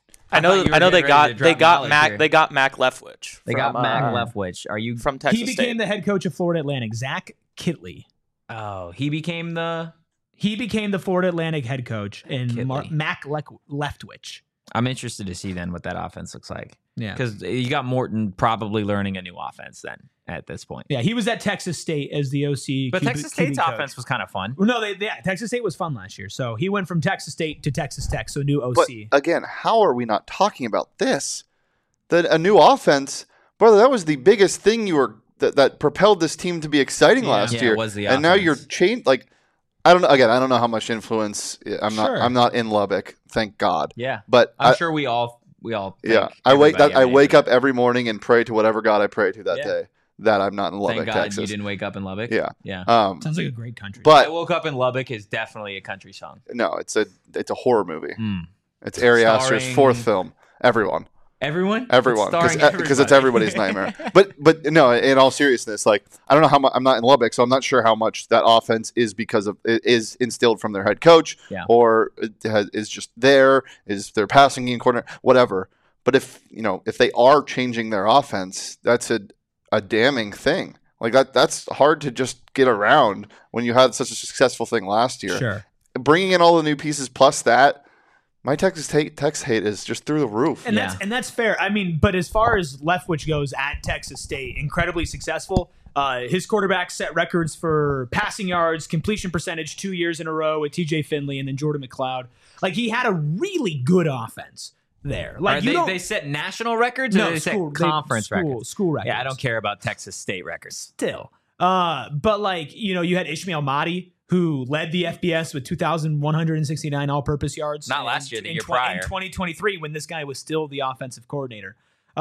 I know. thought you were I know they getting ready got to they drop got knowledge Mac. here. They got Mac Leftwich. They got from, Mac uh, Leftwich. Are you from Texas he became State. the head coach of Florida Atlantic, Zach Kitley. Oh, he became the... He became the Florida Atlantic head coach, and Kitley. Mar- Mac Le- Leftwich. I'm interested to see then what that offense looks like. Yeah. Because you got Morton probably learning a new offense then at this point. Yeah, he was at Texas State as the O C. But Q B Texas Q B State's coach. offense was kind of fun. Well, no, they, they, yeah, Texas State was fun last year. So he went from Texas State to Texas Tech, so new O But C. again, how are we not talking about this? That a new offense, brother, that was the biggest thing you were that, that propelled this team to be exciting Yeah. last Yeah, year. it was the and now you're offense. changed. Like, I don't know. Again, I don't know how much influence. I'm not. Sure. I'm not in Lubbock, thank God. Yeah. But I'm I, sure we all we all yeah, thank I wake everybody that I every day wake for up every morning and pray to whatever God I pray to that Yeah. day that I'm not in that. Lubbock, Thank God Texas. you didn't wake up in Lubbock. Yeah. Yeah. Um, Sounds like a great country. I but woke up in Lubbock is definitely a country song. no, it's a it's a horror movie. Mm. It's Ari Aster's Starring- fourth film. Everyone. Everyone? Everyone, It's because starring it's everybody. everybody's nightmare. But but no, in all seriousness, like I don't know how much I'm not in Lubbock, so I'm not sure how much that offense is because of it is instilled from their head coach, Yeah. or it has, is just there, is their passing game coordinator, whatever. But if you know if they are changing their offense, that's a a damning thing. Like that that's hard to just get around when you had such a successful thing last year. sure. Bringing in all the new pieces plus that. My Texas Tech Tex hate is just through the roof. And Yeah. that's and that's fair. I mean, but as far as Leftwich goes at Texas State, incredibly successful. Uh, his quarterback set records for passing yards, completion percentage two years in a row with T J Finley and then Jordan McLeod. Like he had a really good offense there. Like Are you they, don't they set national records or no, they set school, they- conference school, records? School records. Yeah, I don't care about Texas State records. Still. Uh, but like, you know, you had Ishmael Mahdi, who led the F B S with two thousand one hundred sixty-nine all-purpose yards. Not in- last year, the in year tw- prior. In twenty twenty-three, when this guy was still the offensive coordinator.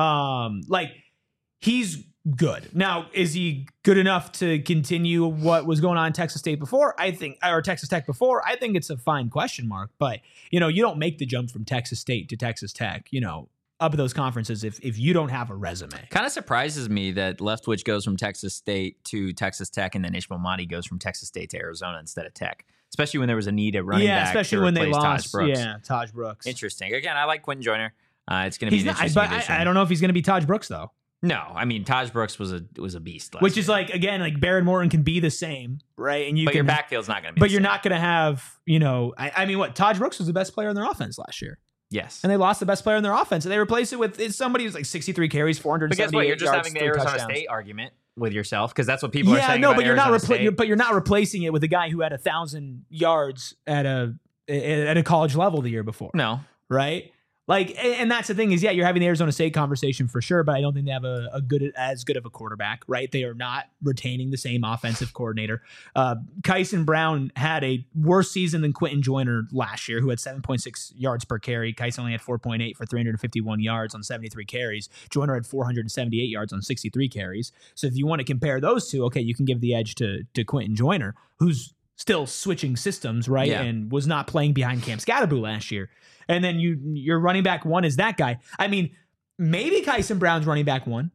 Um, like, he's good. Now, is he good enough to continue what was going on in Texas State before? I think, or Texas Tech before? I think it's a fine question mark. But, you know, you don't make the jump from Texas State to Texas Tech, you know, up at those conferences if if you don't have a resume. Kind of surprises me that Leftwich goes from Texas State to Texas Tech, and then Ishmael Mahdi goes from Texas State to Arizona instead of Tech. Especially when there was a need at running yeah, back. especially to when they replace lost. Taj Brooks. Yeah, Taj Brooks. Interesting. Again, I like Quentin Joyner. Uh, it's going to be He's an not, interesting but addition. I, I don't know if he's going to be Taj Brooks though. No, I mean Taj Brooks was a was a beast. Last Which is year. like again, like Baron Morton can be the same, right? And you but can, your backfield's not going to be. but the you're same. not going to have, you know, I, I mean, what Taj Brooks was the best player in their offense last year, Yes. and they lost the best player in their offense, and they replaced it with it's somebody who's like sixty-three carries, four hundred. But guess what? You're just having the Arizona touchdowns. State argument with yourself because that's what people are Yeah, saying. no, about but you're not Arizona repla- State. you're, but you're not replacing it with a guy who had a thousand yards at a at a college level the year before, No, right? Like, and and that's the thing is, yeah, you're having the Arizona State conversation for sure, but I don't think they have a, a good as good of a quarterback, right? They are not retaining the same offensive coordinator. Uh, Kyson Brown had a worse season than Quentin Joyner last year, who had seven point six yards per carry. Kyson only had four point eight for three hundred fifty-one yards on seventy-three carries. Joyner had four hundred seventy-eight yards on sixty-three carries. So if you want to compare those two, okay, you can give the edge to to Quentin Joyner, who's still switching systems, right? Yeah. And was not playing behind Cam Scatterboo last year. And then you your running back one is that guy. I mean, maybe Kyson Brown's running back one.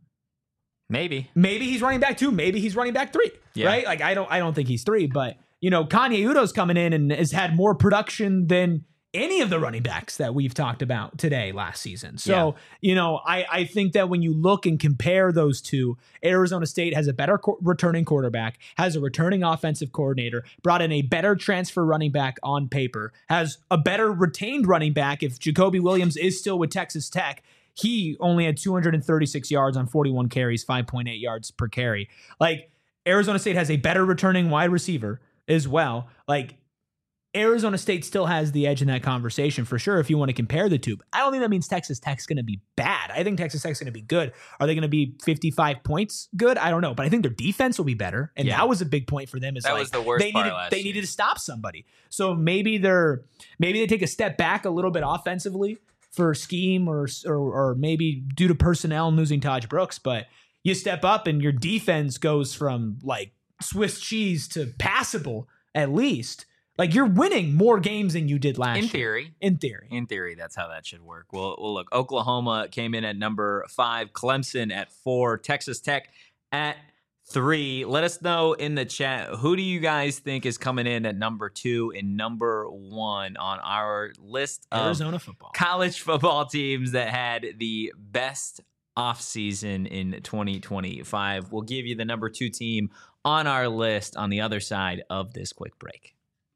Maybe. Maybe he's running back two. Maybe he's running back three. Yeah. Right? Like I don't I don't think he's three, but you know, Kanye Udo's coming in and has had more production than any of the running backs that we've talked about today last season. So, Yeah. you know, I, I think that when you look and compare those two, Arizona State has a better co- returning quarterback, has a returning offensive coordinator, brought in a better transfer running back on paper, has a better retained running back. If Jacoby Williams is still with Texas Tech, he only had two hundred thirty-six yards on forty-one carries, five point eight yards per carry. Like, Arizona State has a better returning wide receiver as well. Like, Arizona State still has the edge in that conversation for sure if you want to compare the two. But I don't think that means Texas Tech's going to be bad. I think Texas Tech's going to be good. Are they going to be fifty-five points good? I don't know. But I think their defense will be better. And Yeah. that was a big point for them. Is That like was the worst they part needed, last They year. needed to stop somebody. So maybe they're maybe they take a step back a little bit offensively for scheme or or, or maybe due to personnel and losing Taj Brooks. But you step up and your defense goes from like Swiss cheese to passable at least. Like, you're winning more games than you did last In year. theory. In theory. In theory, that's how that should work. Well, well, look, Oklahoma came in at number five, Clemson at four, Texas Tech at three. Let us know in the chat, who do you guys think is coming in at number two and number one on our list of Arizona football. college football teams that had the best offseason in twenty twenty-five? We'll give you the number two team on our list on the other side of this quick break.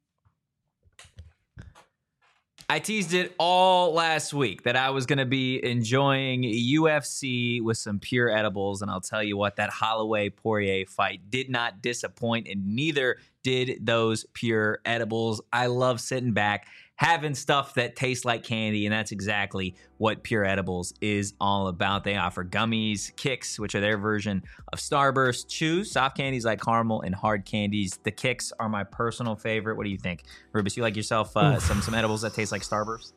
I teased it all last week that I was going to be enjoying U F C with some pure edibles, and I'll tell you what, that Holloway-Poirier fight did not disappoint, and neither did those pure edibles. I love sitting back, having stuff that tastes like candy, and that's exactly what Pure Edibles is all about. They offer gummies, kicks, which are their version of Starburst, chews, soft candies like caramel, and hard candies. The kicks are my personal favorite. What do you think, Rubus? You like yourself uh, some some edibles that taste like Starburst?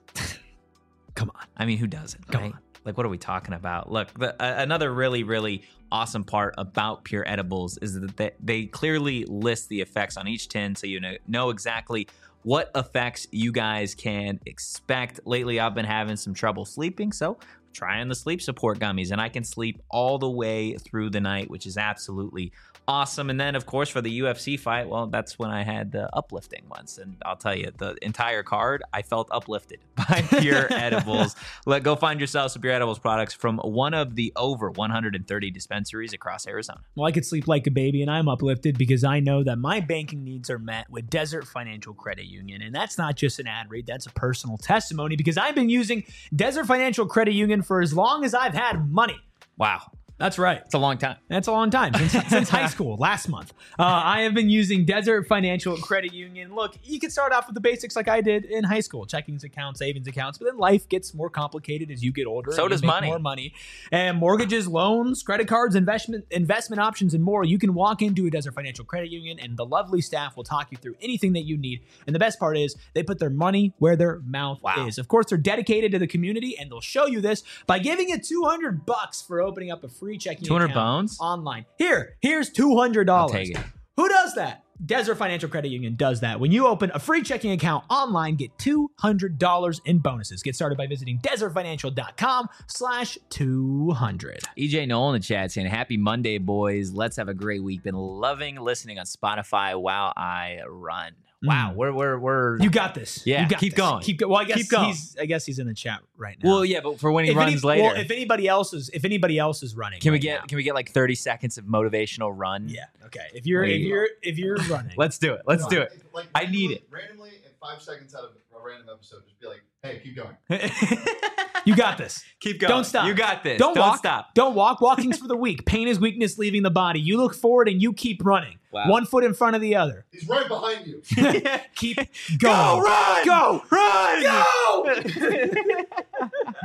Come on. I mean, who doesn't? Come right? on. Like, what are we talking about? Look, the, uh, another really, really awesome part about Pure Edibles is that they, they clearly list the effects on each tin, so you know, know exactly what effects you guys can expect. Lately, I've been having some trouble sleeping, so trying the sleep support gummies, and I can sleep all the way through the night, which is absolutely awesome. And then, of course, for the U F C fight, well, that's when I had the uplifting ones. And I'll tell you, the entire card, I felt uplifted by Pure Edibles. Let go find yourself some Pure Edibles products from one of the over one hundred thirty dispensaries across Arizona. Well, I could sleep like a baby, and I'm uplifted because I know that my banking needs are met with Desert Financial Credit Union. And that's not just an ad read, that's a personal testimony because I've been using Desert Financial Credit Union for as long as I've had money. Wow. That's right. It's a long time. That's a long time, since, since high school, last month. Uh, I have been using Desert Financial Credit Union. Look, you can start off with the basics like I did in high school, checkings accounts, savings accounts, but then life gets more complicated as you get older. So and you does make money. More money. And mortgages, loans, credit cards, investment investment options, and more. You can walk into a Desert Financial Credit Union, and the lovely staff will talk you through anything that you need. And the best part is they put their money where their mouth Wow. is. Of course, they're dedicated to the community, and they'll show you this by giving you two hundred bucks for opening up a free checking two hundred account. bones? Online. Here, here's two hundred dollars. I'll take it. Who does that? Desert Financial Credit Union does that. When you open a free checking account online, get two hundred dollars in bonuses. Get started by visiting desertfinancial.com slash 200. E J Noel in the chat saying, happy Monday, boys. Let's have a great week. Been loving listening on Spotify while I run. Wow, Mm. we're we're we're You got this. Yeah, you got keep this. going. Keep going. Well, I guess Keep going. he's I guess he's in the chat right now. well, yeah, but for when he if runs any, later, Well, if anybody else is if anybody else is running, can we right get now. can we get like thirty seconds of motivational run? Yeah. Okay. If you're There if you you're if you're running, Let's do it. Let's do it. Like, I need it. Randomly, in five seconds out of a random episode, just be like, "Hey, keep going." you got this. Keep going. Don't stop. You got this. Don't, Don't walk. stop. Don't walk. Walking's for the weak. Pain is weakness leaving the body. You look forward and you keep running. Wow. One foot in front of the other. He's right behind you. Keep Go, going. run! Go. Run! Go!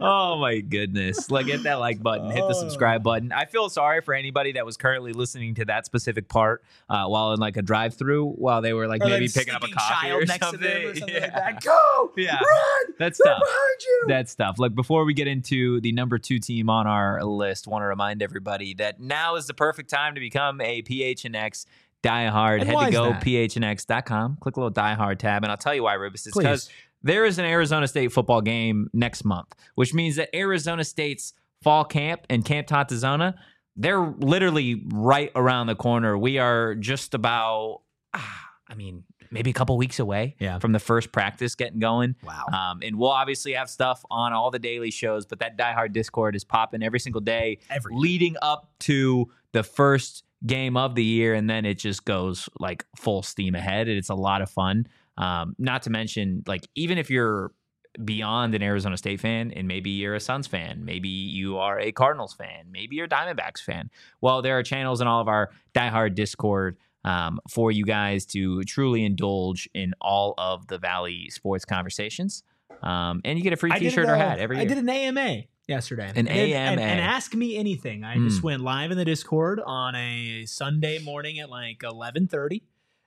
Oh my goodness. Like, hit that like button, hit the subscribe button. I feel sorry for anybody that was currently listening to that specific part uh, while in like a drive through while they were like Or maybe like picking up a sleeping coffee child or next something. to them or something yeah. like that. Go! Yeah. Run! That's They're tough. behind you! That's tough. Like, before we get into the number two team on our list, want to remind everybody that now is the perfect time to become a P H N X diehard. And Head why to is go that? P H N X dot com. Click a little diehard tab, and I'll tell you why, Rubus. It's Please. because there is an Arizona State football game next month, which means that Arizona State's fall camp and Camp Tantazona, they're literally right around the corner. We are just about, ah, I mean, maybe a couple weeks away Yeah. from the first practice getting going. Wow. Um, and we'll obviously have stuff on all the daily shows, but that Die Hard Discord is popping every single day, Every leading up to the first game of the year, and then it just goes like full steam ahead, and it's a lot of fun. Um, not to mention, like, even if you're beyond an Arizona State fan and maybe you're a Suns fan, maybe you are a Cardinals fan, maybe you're a Diamondbacks fan, well, there are channels in all of our Die Hard Discord um, for you guys to truly indulge in all of the Valley sports conversations. Um, and you get a free I did t-shirt a- or hat every year. I did an A M A yesterday. An I did- and, A M A. and Ask Me Anything. I Mm. just went live in the Discord on a Sunday morning at like eleven thirty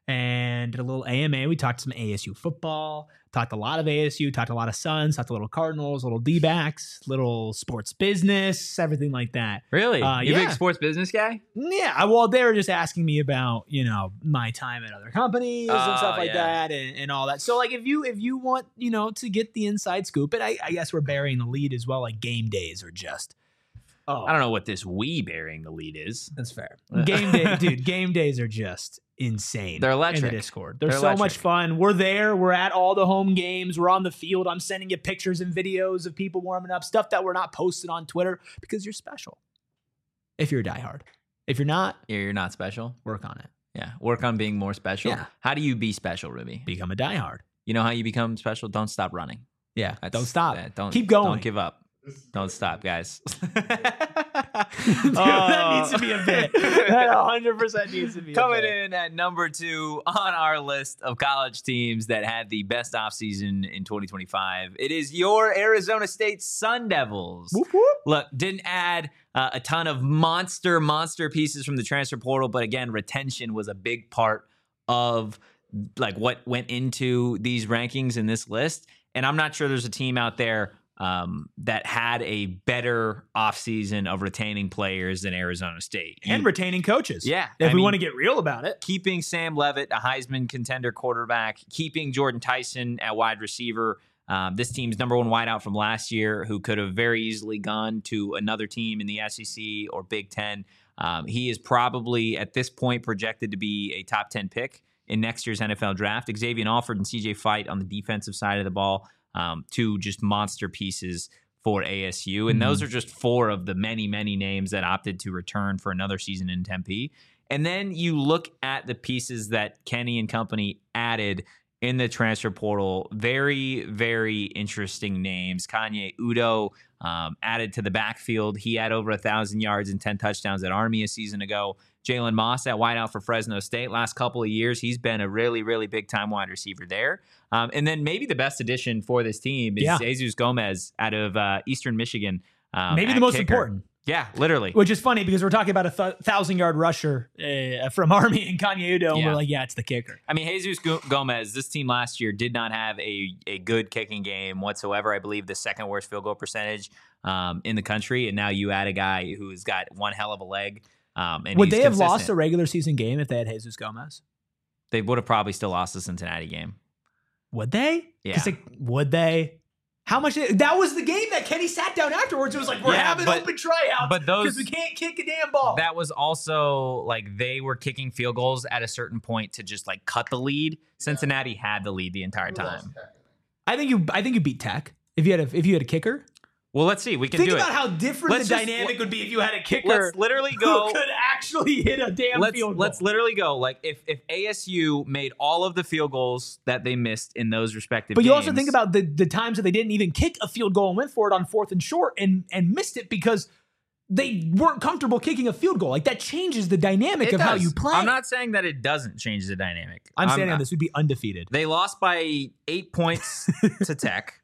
and did a little A M A. We talked some A S U football, talked a lot of A S U, talked a lot of Suns, talked a little Cardinals, little D-backs, little sports business, everything like that. Really? Uh, you a big yeah. sports business guy? Yeah, well, they were just asking me about, you know, my time at other companies and Oh, stuff like yeah. that and, and all that. So, like, if you if you want, you know, to get the inside scoop, and I, I guess we're burying the lead as well, like game days are just, oh, I don't know what this we bearing the lead is. that's fair. Game day, dude, game days are just insane. They're In electric. the Discord. They're, They're so much electric. fun. We're there. We're at all the home games. We're on the field. I'm sending you pictures and videos of people warming up, stuff that we're not posted on Twitter because you're special. If you're a diehard. If you're not, You're, you're not special. work on it. Yeah. Work on being more special. Yeah. How do you be special, Ruby? Become a diehard. You know how you become special? Don't stop running. Yeah. That's- Don't stop. yeah, don't Keep going. Don't give up. Don't stop, guys. Dude, that needs to be a bit. That one hundred percent needs to be a Coming bit. in at number two on our list of college teams that had the best offseason in twenty twenty-five, it is your Arizona State Sun Devils. Whoop, whoop. Look, didn't add uh, a ton of monster, monster pieces from the transfer portal, but again, retention was a big part of like what went into these rankings in this list. And I'm not sure there's a team out there um, that had a better offseason of retaining players than Arizona State. And You- retaining coaches. Yeah, If I we mean- want to get real about it. keeping Sam Levitt, a Heisman contender quarterback, keeping Jordan Tyson at wide receiver. Um, this team's number one wideout from last year, who could have very easily gone to another team in the S E C or Big Ten. Um, he is probably at this point projected to be a top ten pick in next year's N F L draft. Xavier Alford and C J Fight on the defensive side of the ball, um, two just monster pieces for A S U. And those are just four of the many, many names that opted to return for another season in Tempe. And then you look at the pieces that Kenny and company added in the transfer portal. Very, very interesting names. Kanye Udo um, added to the backfield. He had over one thousand yards and ten touchdowns at Army a season ago. Jalen Moss at wideout for Fresno State. Last couple of years, he's been a really, really big-time wide receiver there. Um, and then maybe the best addition for this team is Yeah. Jesus Gomez out of uh, Eastern Michigan. Um, Maybe at the most kicker. important. Yeah, literally. Which is funny because we're talking about a th- thousand yard rusher uh, from Army and Kanye Udo, and Yeah. we're like, yeah, it's the kicker. I mean, Jesus Go- Gomez, this team last year did not have a, a good kicking game whatsoever. I believe the second worst field goal percentage um, in the country. And now you add a guy who's got one hell of a leg. Um, and Would he's they have lost a consistent. regular season game if they had Jesus Gomez? They would have probably still lost the Cincinnati game. Would they? Yeah. 'Cause, like, would they? How much? That was the game that Kenny sat down afterwards. It was like, we're Yeah, having but- open tryouts but those- because we can't kick a damn ball. That was also like they were kicking field goals at a certain point to just like cut the lead. Cincinnati had the lead the entire time. I think you. I think you beat Tech if you had a if you had a kicker. Well, let's see. We can Think do about it. how different Let's the just- dynamic would be if you had a kicker Let's literally go. who could actually hit a damn let's field goal. let's literally go. Like if if A S U made all of the field goals that they missed in those respective, But you also games- think about the the times that they didn't even kick a field goal and went for it on fourth and short and and missed it because they weren't comfortable kicking a field goal. Like that changes the dynamic It of how does. you play. I'm not saying that it doesn't change the dynamic. I'm saying not- this would be undefeated. They lost by eight points to Tech,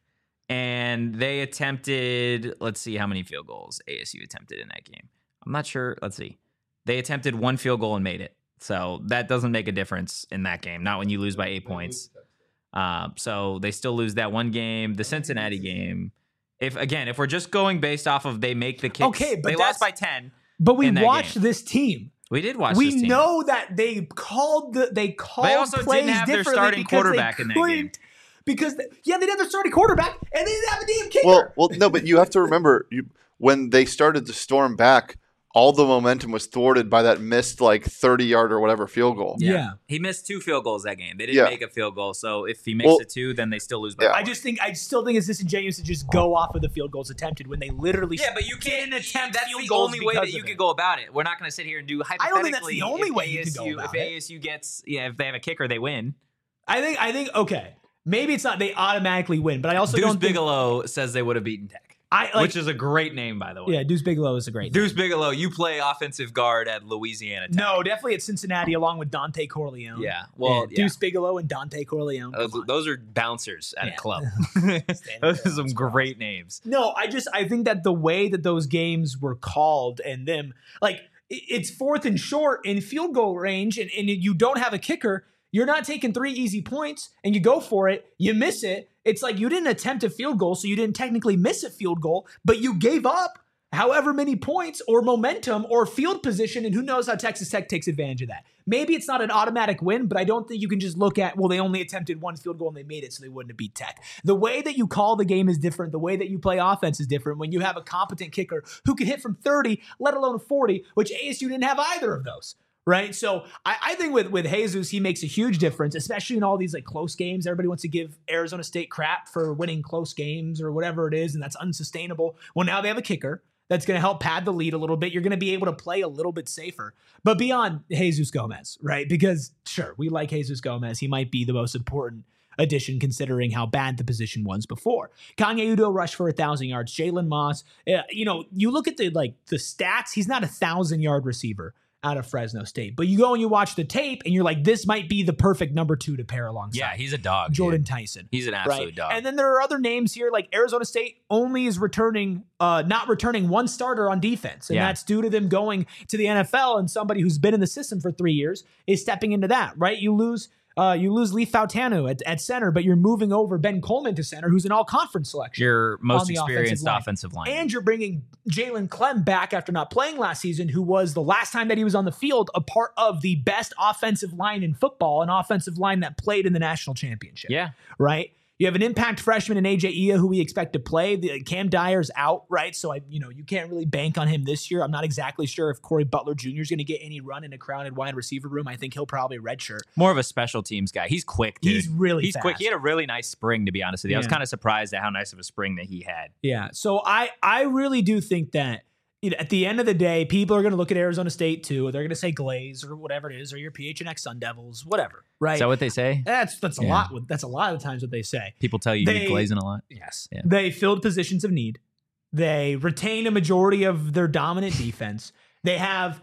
and they attempted, let's see how many field goals A S U attempted in that game. I'm not sure. Let's see. They attempted one field goal and made it. So that doesn't make a difference in that game, not when you lose by eight points. Um, so they still lose that one game. The Cincinnati game, if again, if we're just going based off of they make the kicks, Okay, but they that's- lost by ten. But we in that watched game. this team. We did watch We this team. know that they called the they called They also plays didn't have their differently starting because they quarterback in that game. couldn't- Because they- yeah, they didn't have their starting quarterback and they didn't have a damn kicker. Well, well, no, but you have to remember you, when they started to storm back, all the momentum was thwarted by that missed like thirty yard or whatever field goal. Yeah. He missed two field goals that game. They didn't Yeah. make a field goal. So if he makes Well, it two, then they still lose by yeah. one. I just think I still think it's disingenuous to just go off of the field goals attempted when they literally Yeah, but you can't didn't attempt That's field the goals only way that because you of could it. go about it. We're not going to sit here and do hypothetically. I don't think that's the only if way you could go A S U about if it. A S U gets, yeah, if they have a kicker, they win. I think I think okay. Maybe it's not they automatically win, but I also Deuce don't think Bigelow says they would have beaten Tech, I like which is a great name, by the way. yeah, Deuce Bigelow is a great Deuce name. Bigelow, you play offensive guard at Louisiana Tech. No, definitely at Cincinnati along with Dante Corleone. Yeah, well, Yeah, yeah. Deuce Bigelow and Dante Corleone. Those, Come on. those are bouncers at Yeah. a club. Standing Those are there, some that's great names. No, I just I think that the way that those games were called and them like i- it's fourth and short in field goal range and, and you don't have a kicker, you're not taking three easy points and you go for it, you miss it. It's like you didn't attempt a field goal, so you didn't technically miss a field goal, but you gave up however many points or momentum or field position, and who knows how Texas Tech takes advantage of that. Maybe it's not an automatic win, but I don't think you can just look at, well, they only attempted one field goal and they made it, so they wouldn't have beat Tech. The way that you call the game is different. The way that you play offense is different when you have a competent kicker who can hit from thirty, let alone forty, which A S U didn't have either of those. Right. So I, I think with, with Jesus, he makes a huge difference, especially in all these like close games. Everybody wants to give Arizona State crap for winning close games or whatever it is, and that's unsustainable. Well, now they have a kicker that's going to help pad the lead a little bit. You're going to be able to play a little bit safer. But beyond Jesus Gomez, right? Because sure, we like Jesus Gomez. He might be the most important addition considering how bad the position was before. Kanye Udo rushed for a thousand yards. Jalen Moss, uh, you know, you look at the like the stats. He's not a thousand yard receiver out of Fresno State, but you go and you watch the tape, and you're like, this might be the perfect number two to pair alongside. Yeah, he's a dog. Jordan dude. Tyson. He's an absolute Right? dog. And then there are other names here, like Arizona State only is returning, uh, not returning one starter on defense. And Yeah. that's due to them going to the N F L, and somebody who's been in the system for three years is stepping into that, right? You lose uh, you lose Leif Fautanu at, at center, but you're moving over Ben Coleman to center, who's an all-conference selection. Your most on the experienced offensive line. offensive line. And you're bringing Jalen Clem back after not playing last season, who was the last time that he was on the field, a part of the best offensive line in football, an offensive line that played in the national championship. Yeah. Right? You have an impact freshman in A J Ia who we expect to play. The, Cam Dyer's out, right? So I, you know, you can't really bank on him this year. I'm not exactly sure if Corey Butler Junior is going to get any run in a crowded wide receiver room. I think he'll probably redshirt. More of a special teams guy. He's quick, dude. He's really He's fast. quick. He had a really nice spring, to be honest with you. I was Yeah. kind of surprised at how nice of a spring that he had. Yeah. So I I really do think that you know, at the end of the day, people are going to look at Arizona State too. They're going to say Glaze or whatever it is, or your P H N X Sun Devils, whatever. Right. Is that what they say? that's that's a Yeah. lot. That's a lot of the times what they say. People tell you They- you're glazing a lot. Yes. Yeah. They filled positions of need. They retain a majority of their dominant defense. They have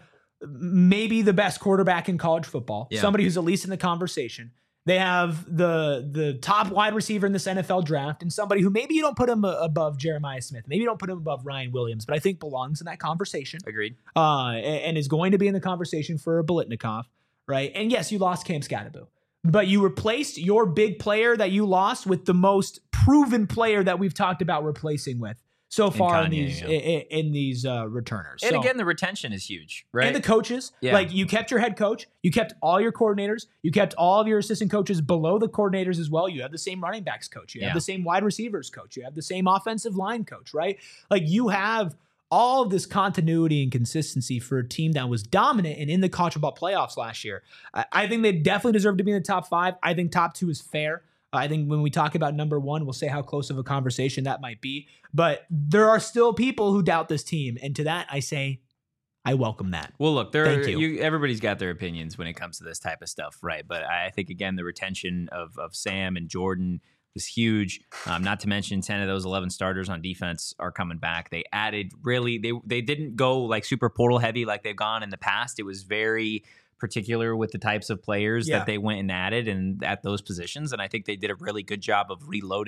maybe the best quarterback in college football, Yeah. somebody who's at least in the conversation. They have the the top wide receiver in this N F L draft and somebody who maybe you don't put him uh, above Jeremiah Smith. Maybe you don't put him above Ryan Williams, but I think belongs in that conversation Agreed. uh, and, and is going to be in the conversation for a Bolitnikov, right? And yes, you lost Cam Scatterbo, but you replaced your big player that you lost with the most proven player that we've talked about replacing with so far in Kanye, these yeah. in, in these uh, returners. And So- again, the retention is huge, right? and the coaches, Yeah. like you kept your head coach, you kept all your coordinators, you kept all of your assistant coaches below the coordinators as well. You have the same running backs coach, you have Yeah. the same wide receivers coach, you have the same offensive line coach, right? Like you have all of this continuity and consistency for a team that was dominant and in the college football playoffs last year. I, I think they definitely deserve to be in the top five. I think top two is fair. I think when we talk about number one, we'll say how close of a conversation that might be. But there are still people who doubt this team. And to that, I say, I welcome that. Well, look, there. Thank you. You, everybody's got their opinions when it comes to this type of stuff, right? But I think again, the retention of of Sam and Jordan was huge. Um, not to mention, ten of those eleven starters on defense are coming back. They added really. They they didn't go like super portal heavy like they've gone in the past. It was very particular with the types of players Yeah. that they went and added and at those positions. And I think they did a really good job of reloading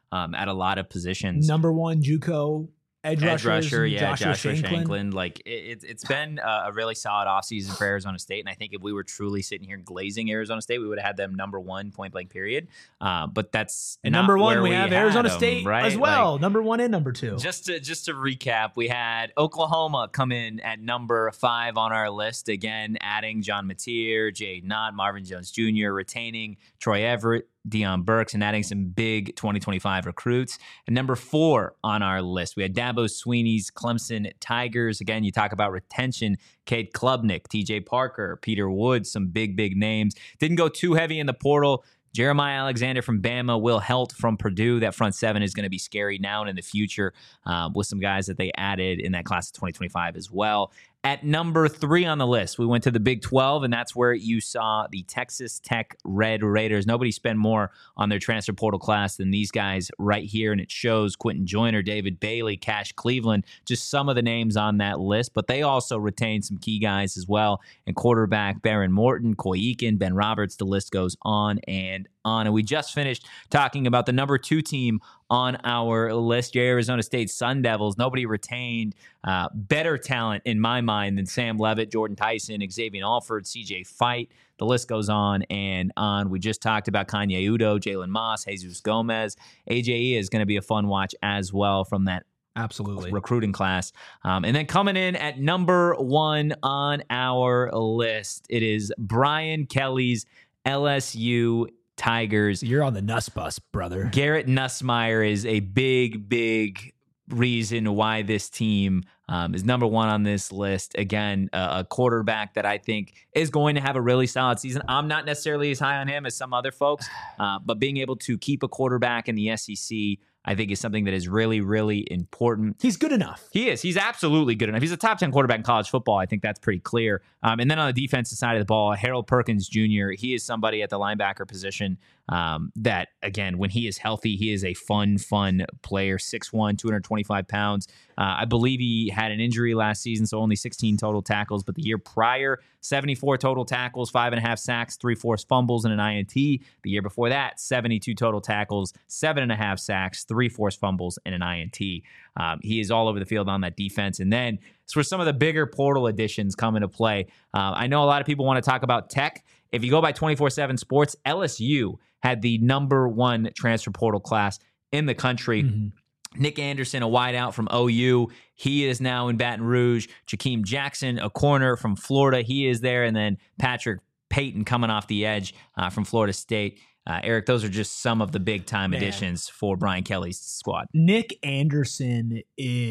um, at a lot of positions. Number one JUCO edge, Edge rusher, and yeah, Joshua, Joshua Shanklin. Shanklin. Like it, it's it's been a, a really solid offseason for Arizona State, and I think if we were truly sitting here glazing Arizona State, we would have had them number one point blank period. Uh, but that's And not number one, where we have Arizona had 'em, State right? as well. Like, number one and number two. just to just to recap, we had Oklahoma come in at number five on our list again, adding John Mateer, Jay Knott, Marvin Jones Junior, retaining Troy Everett, Deion Burks, and adding some big twenty twenty-five recruits. And number four on our list, we had Dabo Sweeney's Clemson Tigers. Again, you talk about retention. Cade Klubnik, T J Parker, Peter Woods, some big, big names. Didn't go too heavy in the portal. Jeremiah Alexander from Bama, Will Helt from Purdue. That front seven is going to be scary now and in the future um, with some guys that they added in that class of twenty twenty-five as well. At number three on the list, we went to the Big twelve, and that's where you saw the Texas Tech Red Raiders. Nobody spent more on their transfer portal class than these guys right here, and it shows Quentin Joyner, David Bailey, Cash Cleveland, just some of the names on that list, but they also retained some key guys as well, and quarterback Baron Morton, Coy Eakin, Ben Roberts, the list goes on and on. And we just finished talking about the number two team on our list, your Arizona State Sun Devils. Nobody retained uh, better talent in my mind than Sam Levitt, Jordan Tyson, Xavier Alford, C J Fight. The list goes on and on. We just talked about Kanye Udo, Jalen Moss, Jesus Gomez. A J E is going to be a fun watch as well from that Absolutely. recruiting class. Um, and then coming in at number one on our list, it is Brian Kelly's L S U Tigers. You're on the Nuss bus, brother. Garrett Nussmeier is a big, big reason why this team um, is number one on this list. Again, uh, a quarterback that I think is going to have a really solid season. I'm not necessarily as high on him as some other folks, uh, but being able to keep a quarterback in the S E C, I think, is something that is really, really important. He's good enough. He is. He's absolutely good enough. He's a top ten quarterback in college football. I think that's pretty clear. Um, and then on the defensive side of the ball, Harold Perkins Junior, he is somebody at the linebacker position um, that, again, when he is healthy, he is a fun, fun player. six one, two hundred twenty-five pounds. Uh, I believe he had an injury last season, so only sixteen total tackles. But the year prior, seventy-four total tackles, five and a half sacks, three forced fumbles, and an I N T. The year before that, seventy-two total tackles, seven and a half sacks, three forced fumbles, and an I N T. Um, he is all over the field on that defense. And then it's where some of the bigger portal additions come into play. Uh, I know a lot of people want to talk about Tech. If you go by twenty-four seven Sports, L S U had the number one transfer portal class in the country. Mm-hmm. Nick Anderson, a wideout from O U. He is now in Baton Rouge. Jakeem Jackson, a corner from Florida. He is there. And then Patrick Payton coming off the edge uh, from Florida State. Uh, Eric, those are just some of the big-time Man. additions for Brian Kelly's squad. Nick Anderson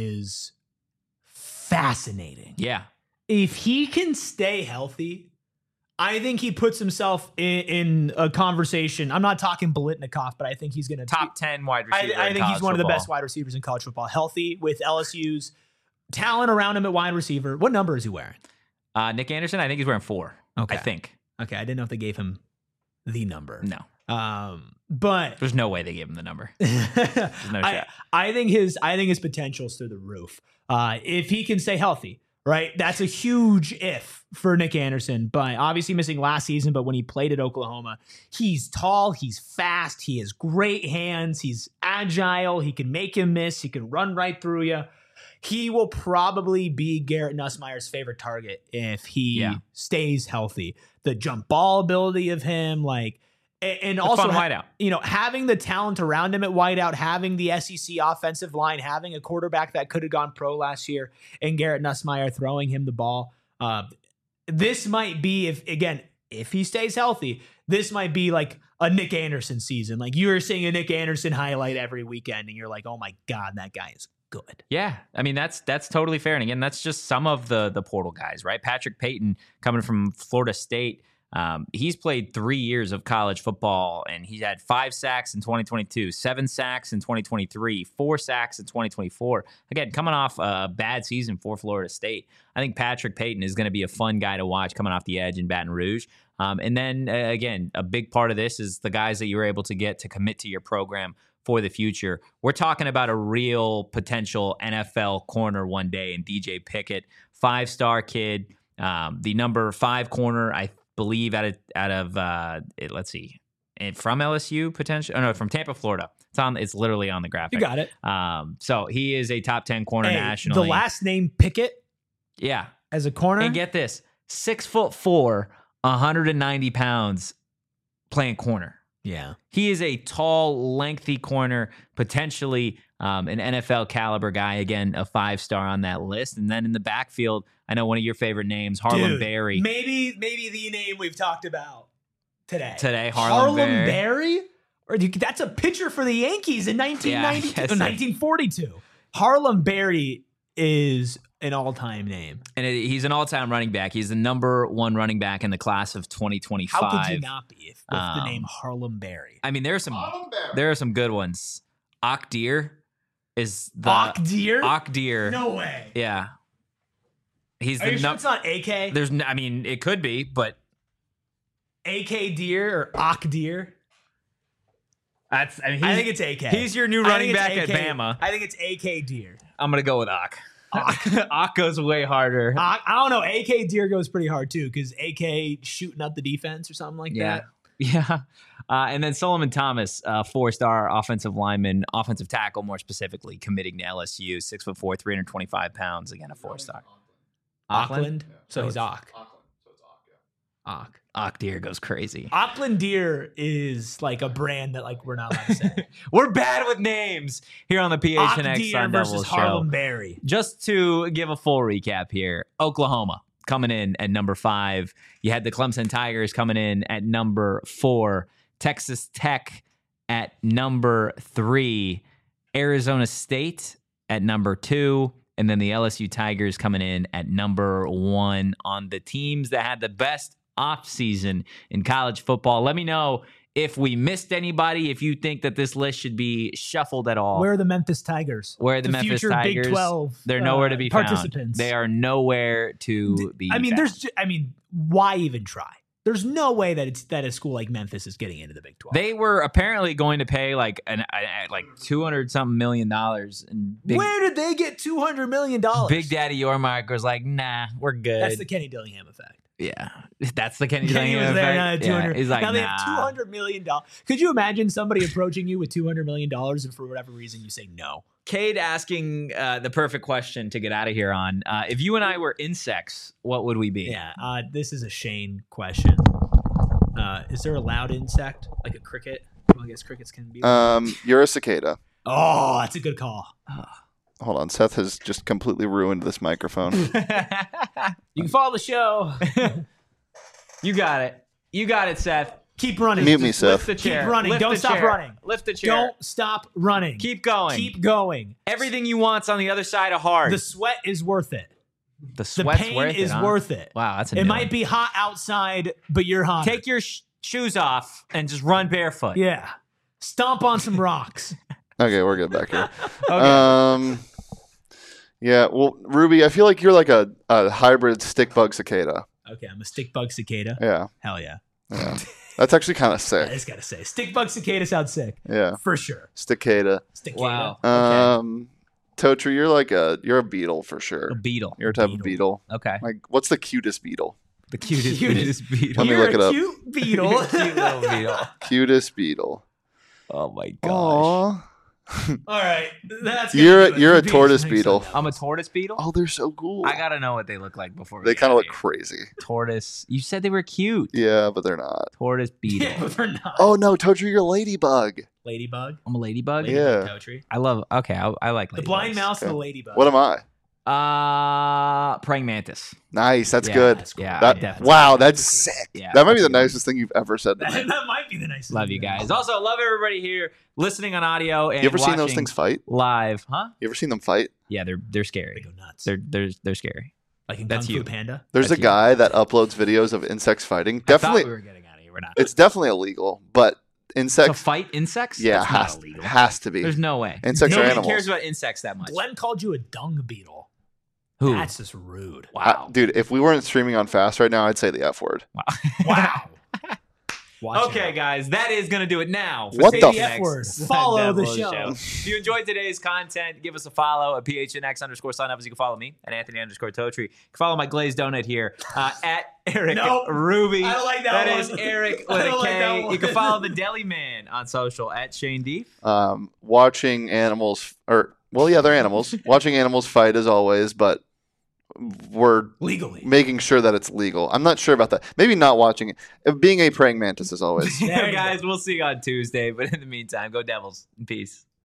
is fascinating. Yeah. If he can stay healthy, I think he puts himself in, in a conversation. I'm not talking Biletnikoff, but I think he's going to Top ten wide I, receiver. I in think he's college one of the football. best wide receivers in college football. Healthy with L S U's talent around him at wide receiver. What number is he wearing? Uh, Nick Anderson, I think he's wearing four. Okay. I think. Okay, I didn't know if they gave him the number. No. Um, but There's no way they gave him the number. no I, shot. I think his I think his potential's through the roof. Uh, if he can stay healthy, right? That's a huge if for Nick Anderson. But obviously missing last season. But when he played at Oklahoma, he's tall, he's fast, he has great hands, he's agile, he can make him miss, he can run right through you. He will probably be Garrett Nussmeier's favorite target if he Yeah. stays healthy. The jump ball ability of him, like, and, and A also fun ha- wideout. you know, having the talent around him at wideout, having the S E C offensive line, having a quarterback that could have gone pro last year, and Garrett Nussmeier throwing him the ball. Uh, this might be, if again, if he stays healthy, this might be like a Nick Anderson season. Like you are seeing a Nick Anderson highlight every weekend, and you're like, oh my God, that guy is good. Yeah, I mean that's that's totally fair. And again, that's just some of the the portal guys, right? Patrick Payton coming from Florida State. Um, he's played three years of college football, and he had five sacks in twenty twenty-two, seven sacks in twenty twenty-three, four sacks in twenty twenty-four. Again, coming off a bad season for Florida State. I think Patrick Payton is going to be a fun guy to watch coming off the edge in Baton Rouge. Um, and then, uh, again, a big part of this is the guys that you were able to get to commit to your program for the future. We're talking about a real potential N F L corner one day in D J Pickett, five-star kid, um, the number five corner, I believe, out of, out of uh, it, let's see, and from L S U potentially. Oh no, from Tampa, Florida. It's on. It's literally on the graphic. You got it. Um, so he is a top ten corner Hey, nationally. the last name Pickett yeah, as a corner. and get this: six foot four, one hundred ninety pounds, playing corner. yeah. He is a tall, lengthy corner, potentially um, an N F L caliber guy. Again, a five star on that list. And then in the backfield, I know one of your favorite names, Harlem Dude, Berry. Maybe maybe the name we've talked about today. Today, Harlem Berry. Berry? Or you- that's a pitcher for the Yankees in nineteen ninety-two, Yeah, I guess so. nineteen forty-two. Harlem Berry is an all-time name. And it, he's an all-time running back. He's the number one running back in the class of twenty twenty-five. How could you not be if, with the Um, name Harlem Berry? I mean, there are some there are some good ones. Akdir is the Akdir? Akdir. No way. Yeah. He's Are the you sure num- it's not A K? There's n- I mean, it could be, but A K Deer or Akdir? that's I mean, I he's- think it's A K. He's your new I running think it's back at A K. Bama. I think it's A K Deer. I'm gonna go with Ak. Ak goes way harder. I, I don't know. A K Deer goes pretty hard too because A K shooting up the defense or something like Yeah. that. Yeah. Uh, and then Solomon Thomas, uh, four-star offensive lineman, offensive tackle, more specifically, committing to L S U, six foot four, three hundred twenty-five pounds. Again, a four-star. Auckland. So he's Ock. Auckland, so it's Auck, yeah. Ock. Ak Deer goes crazy. Auckland Deer is like a brand that like we're not allowed to say. We're bad with names here on the P H Ock N X Deer Sun versus Devils show. Harlem Berry. Just to give a full recap here, Oklahoma coming in at number five. You had the Clemson Tigers coming in at number four. Texas Tech at number three. Arizona State at number two. And then the L S U Tigers coming in at number one on the teams that had the best offseason in college football. Let me know if we missed anybody, if you think that this list should be shuffled at all. Where are the Memphis Tigers? Where are the, Memphis future Tigers? Big twelve. They're nowhere to uh, be found. participants. They are nowhere to be I mean, found. there's. ju- I mean, why even try? There's no way that it's that a school like Memphis is getting into the Big twelve. They were apparently going to pay like an a- like two hundred something million dollars, and Big, Where did they get two hundred million dollars? Big Daddy Yormark was like, "Nah, we're good." That's the Kenny Dillingham effect. yeah, that's the Kenny. Kenny Dillingham was there, effect. now they have Yeah, two hundred. he's like, now they nah. have two hundred million dollars. Could you imagine somebody approaching you with two hundred million dollars and for whatever reason you say no? Cade asking uh, the perfect question to get out of here on. Uh, if you and I were insects, what would we be? Yeah, uh, this is a Shane question. Uh, is there a loud insect like a cricket? Well, I guess crickets can be. Um, you're a cicada. oh, that's a good call. Hold on, Seth has just completely ruined this microphone. You can follow the show. You got it. You got it, Seth. Keep running. Mute me, Lift Seth. the chair. Keep running. Lift Don't the stop chair. running. Lift the chair. Don't stop running. Keep going. Keep going. Everything you want's on the other side of hard. The sweat is worth it. The The sweat's pain worth is it, huh? worth it. Wow, that's a It new might one. be hot outside, but you're hot. Take your sh- shoes off and just run barefoot. yeah. Stomp on some rocks. Okay, we're good back here. Okay. Um, yeah. Well, Ruby, I feel like you're like a, a hybrid stick bug cicada. Okay, I'm a stick bug cicada. Yeah, Hell yeah. yeah. That's actually kind of I sick. just gotta say, stick bug cicada sounds sick Yeah, for sure. sticada. Cicada. Wow. Um, Totri, you're like a you're a beetle for sure. A beetle. You're a type of beetle. Okay. Like, what's the cutest beetle? The cutest, Cutest. cutest beetle. Let me You're look it a up. cute beetle. Cute little beetle. Cutest beetle. Oh my gosh. Aw. All right, that's gonna You're do a, it you're for a Beach tortoise next beetle. Sunday. I'm a tortoise beetle. Oh, they're so cool. I gotta know what they look like before. We They get kind out of look here. crazy. Tortoise. You said they were cute. Yeah, but they're not. Tortoise beetle. Yeah, but they're not. Oh no, Totri, you're a ladybug. Ladybug. I'm a ladybug. Yeah. Ladybug Totri. I love. Okay, I, I like The blind ladybugs. mouse and the Okay. ladybug. What am I? Uh, praying mantis. Nice. That's Yeah, good. That's cool. Yeah, That- I definitely. wow, that's sick. Yeah, that might be that's the a good nicest thing you've ever said to That, me. that might be the nicest. Love thing you I've guys. ever Also, love everybody here listening on audio and You ever seen those watching things fight? live, huh? You ever seen them fight? Yeah, they're they're They scary. go nuts. They're they're they're scary. like in that's Kung Fu you. Panda. There's That's a you. guy that uploads videos of insects fighting. I Definitely, thought we were getting out of here. We're not. it's definitely illegal, but To insects, fight insects? yeah, That's not has, illegal. has to be. There's no way. Insects are Nobody animals. cares about insects that much. Glenn called you a dung beetle. Who? That's just rude. Wow. Uh, dude, if we weren't streaming on Fast right now, I'd say the F word. Wow. Watch Okay, out. guys, that is going to do it now. For What Say the the F X word. Sun Follow the Devils show. If you enjoyed today's content, give us a follow at P H N X underscore Sun Devils. You can follow me at Anthony underscore Totri. You can follow my glazed donut here uh, at Eric Nope. Ruby. I don't like that That one. is Eric I with a don't like that K. one. You can follow the Deli Man on social at Shane Deef. Um, watching animals, or well, yeah, they're animals. Watching animals fight as always, but we're Legally. making sure that it's legal. I'm not sure about that. Maybe not watching it. Uh, Being a praying mantis as always. There you go. Guys, we'll see you on Tuesday. But in the meantime, go Devils. Peace.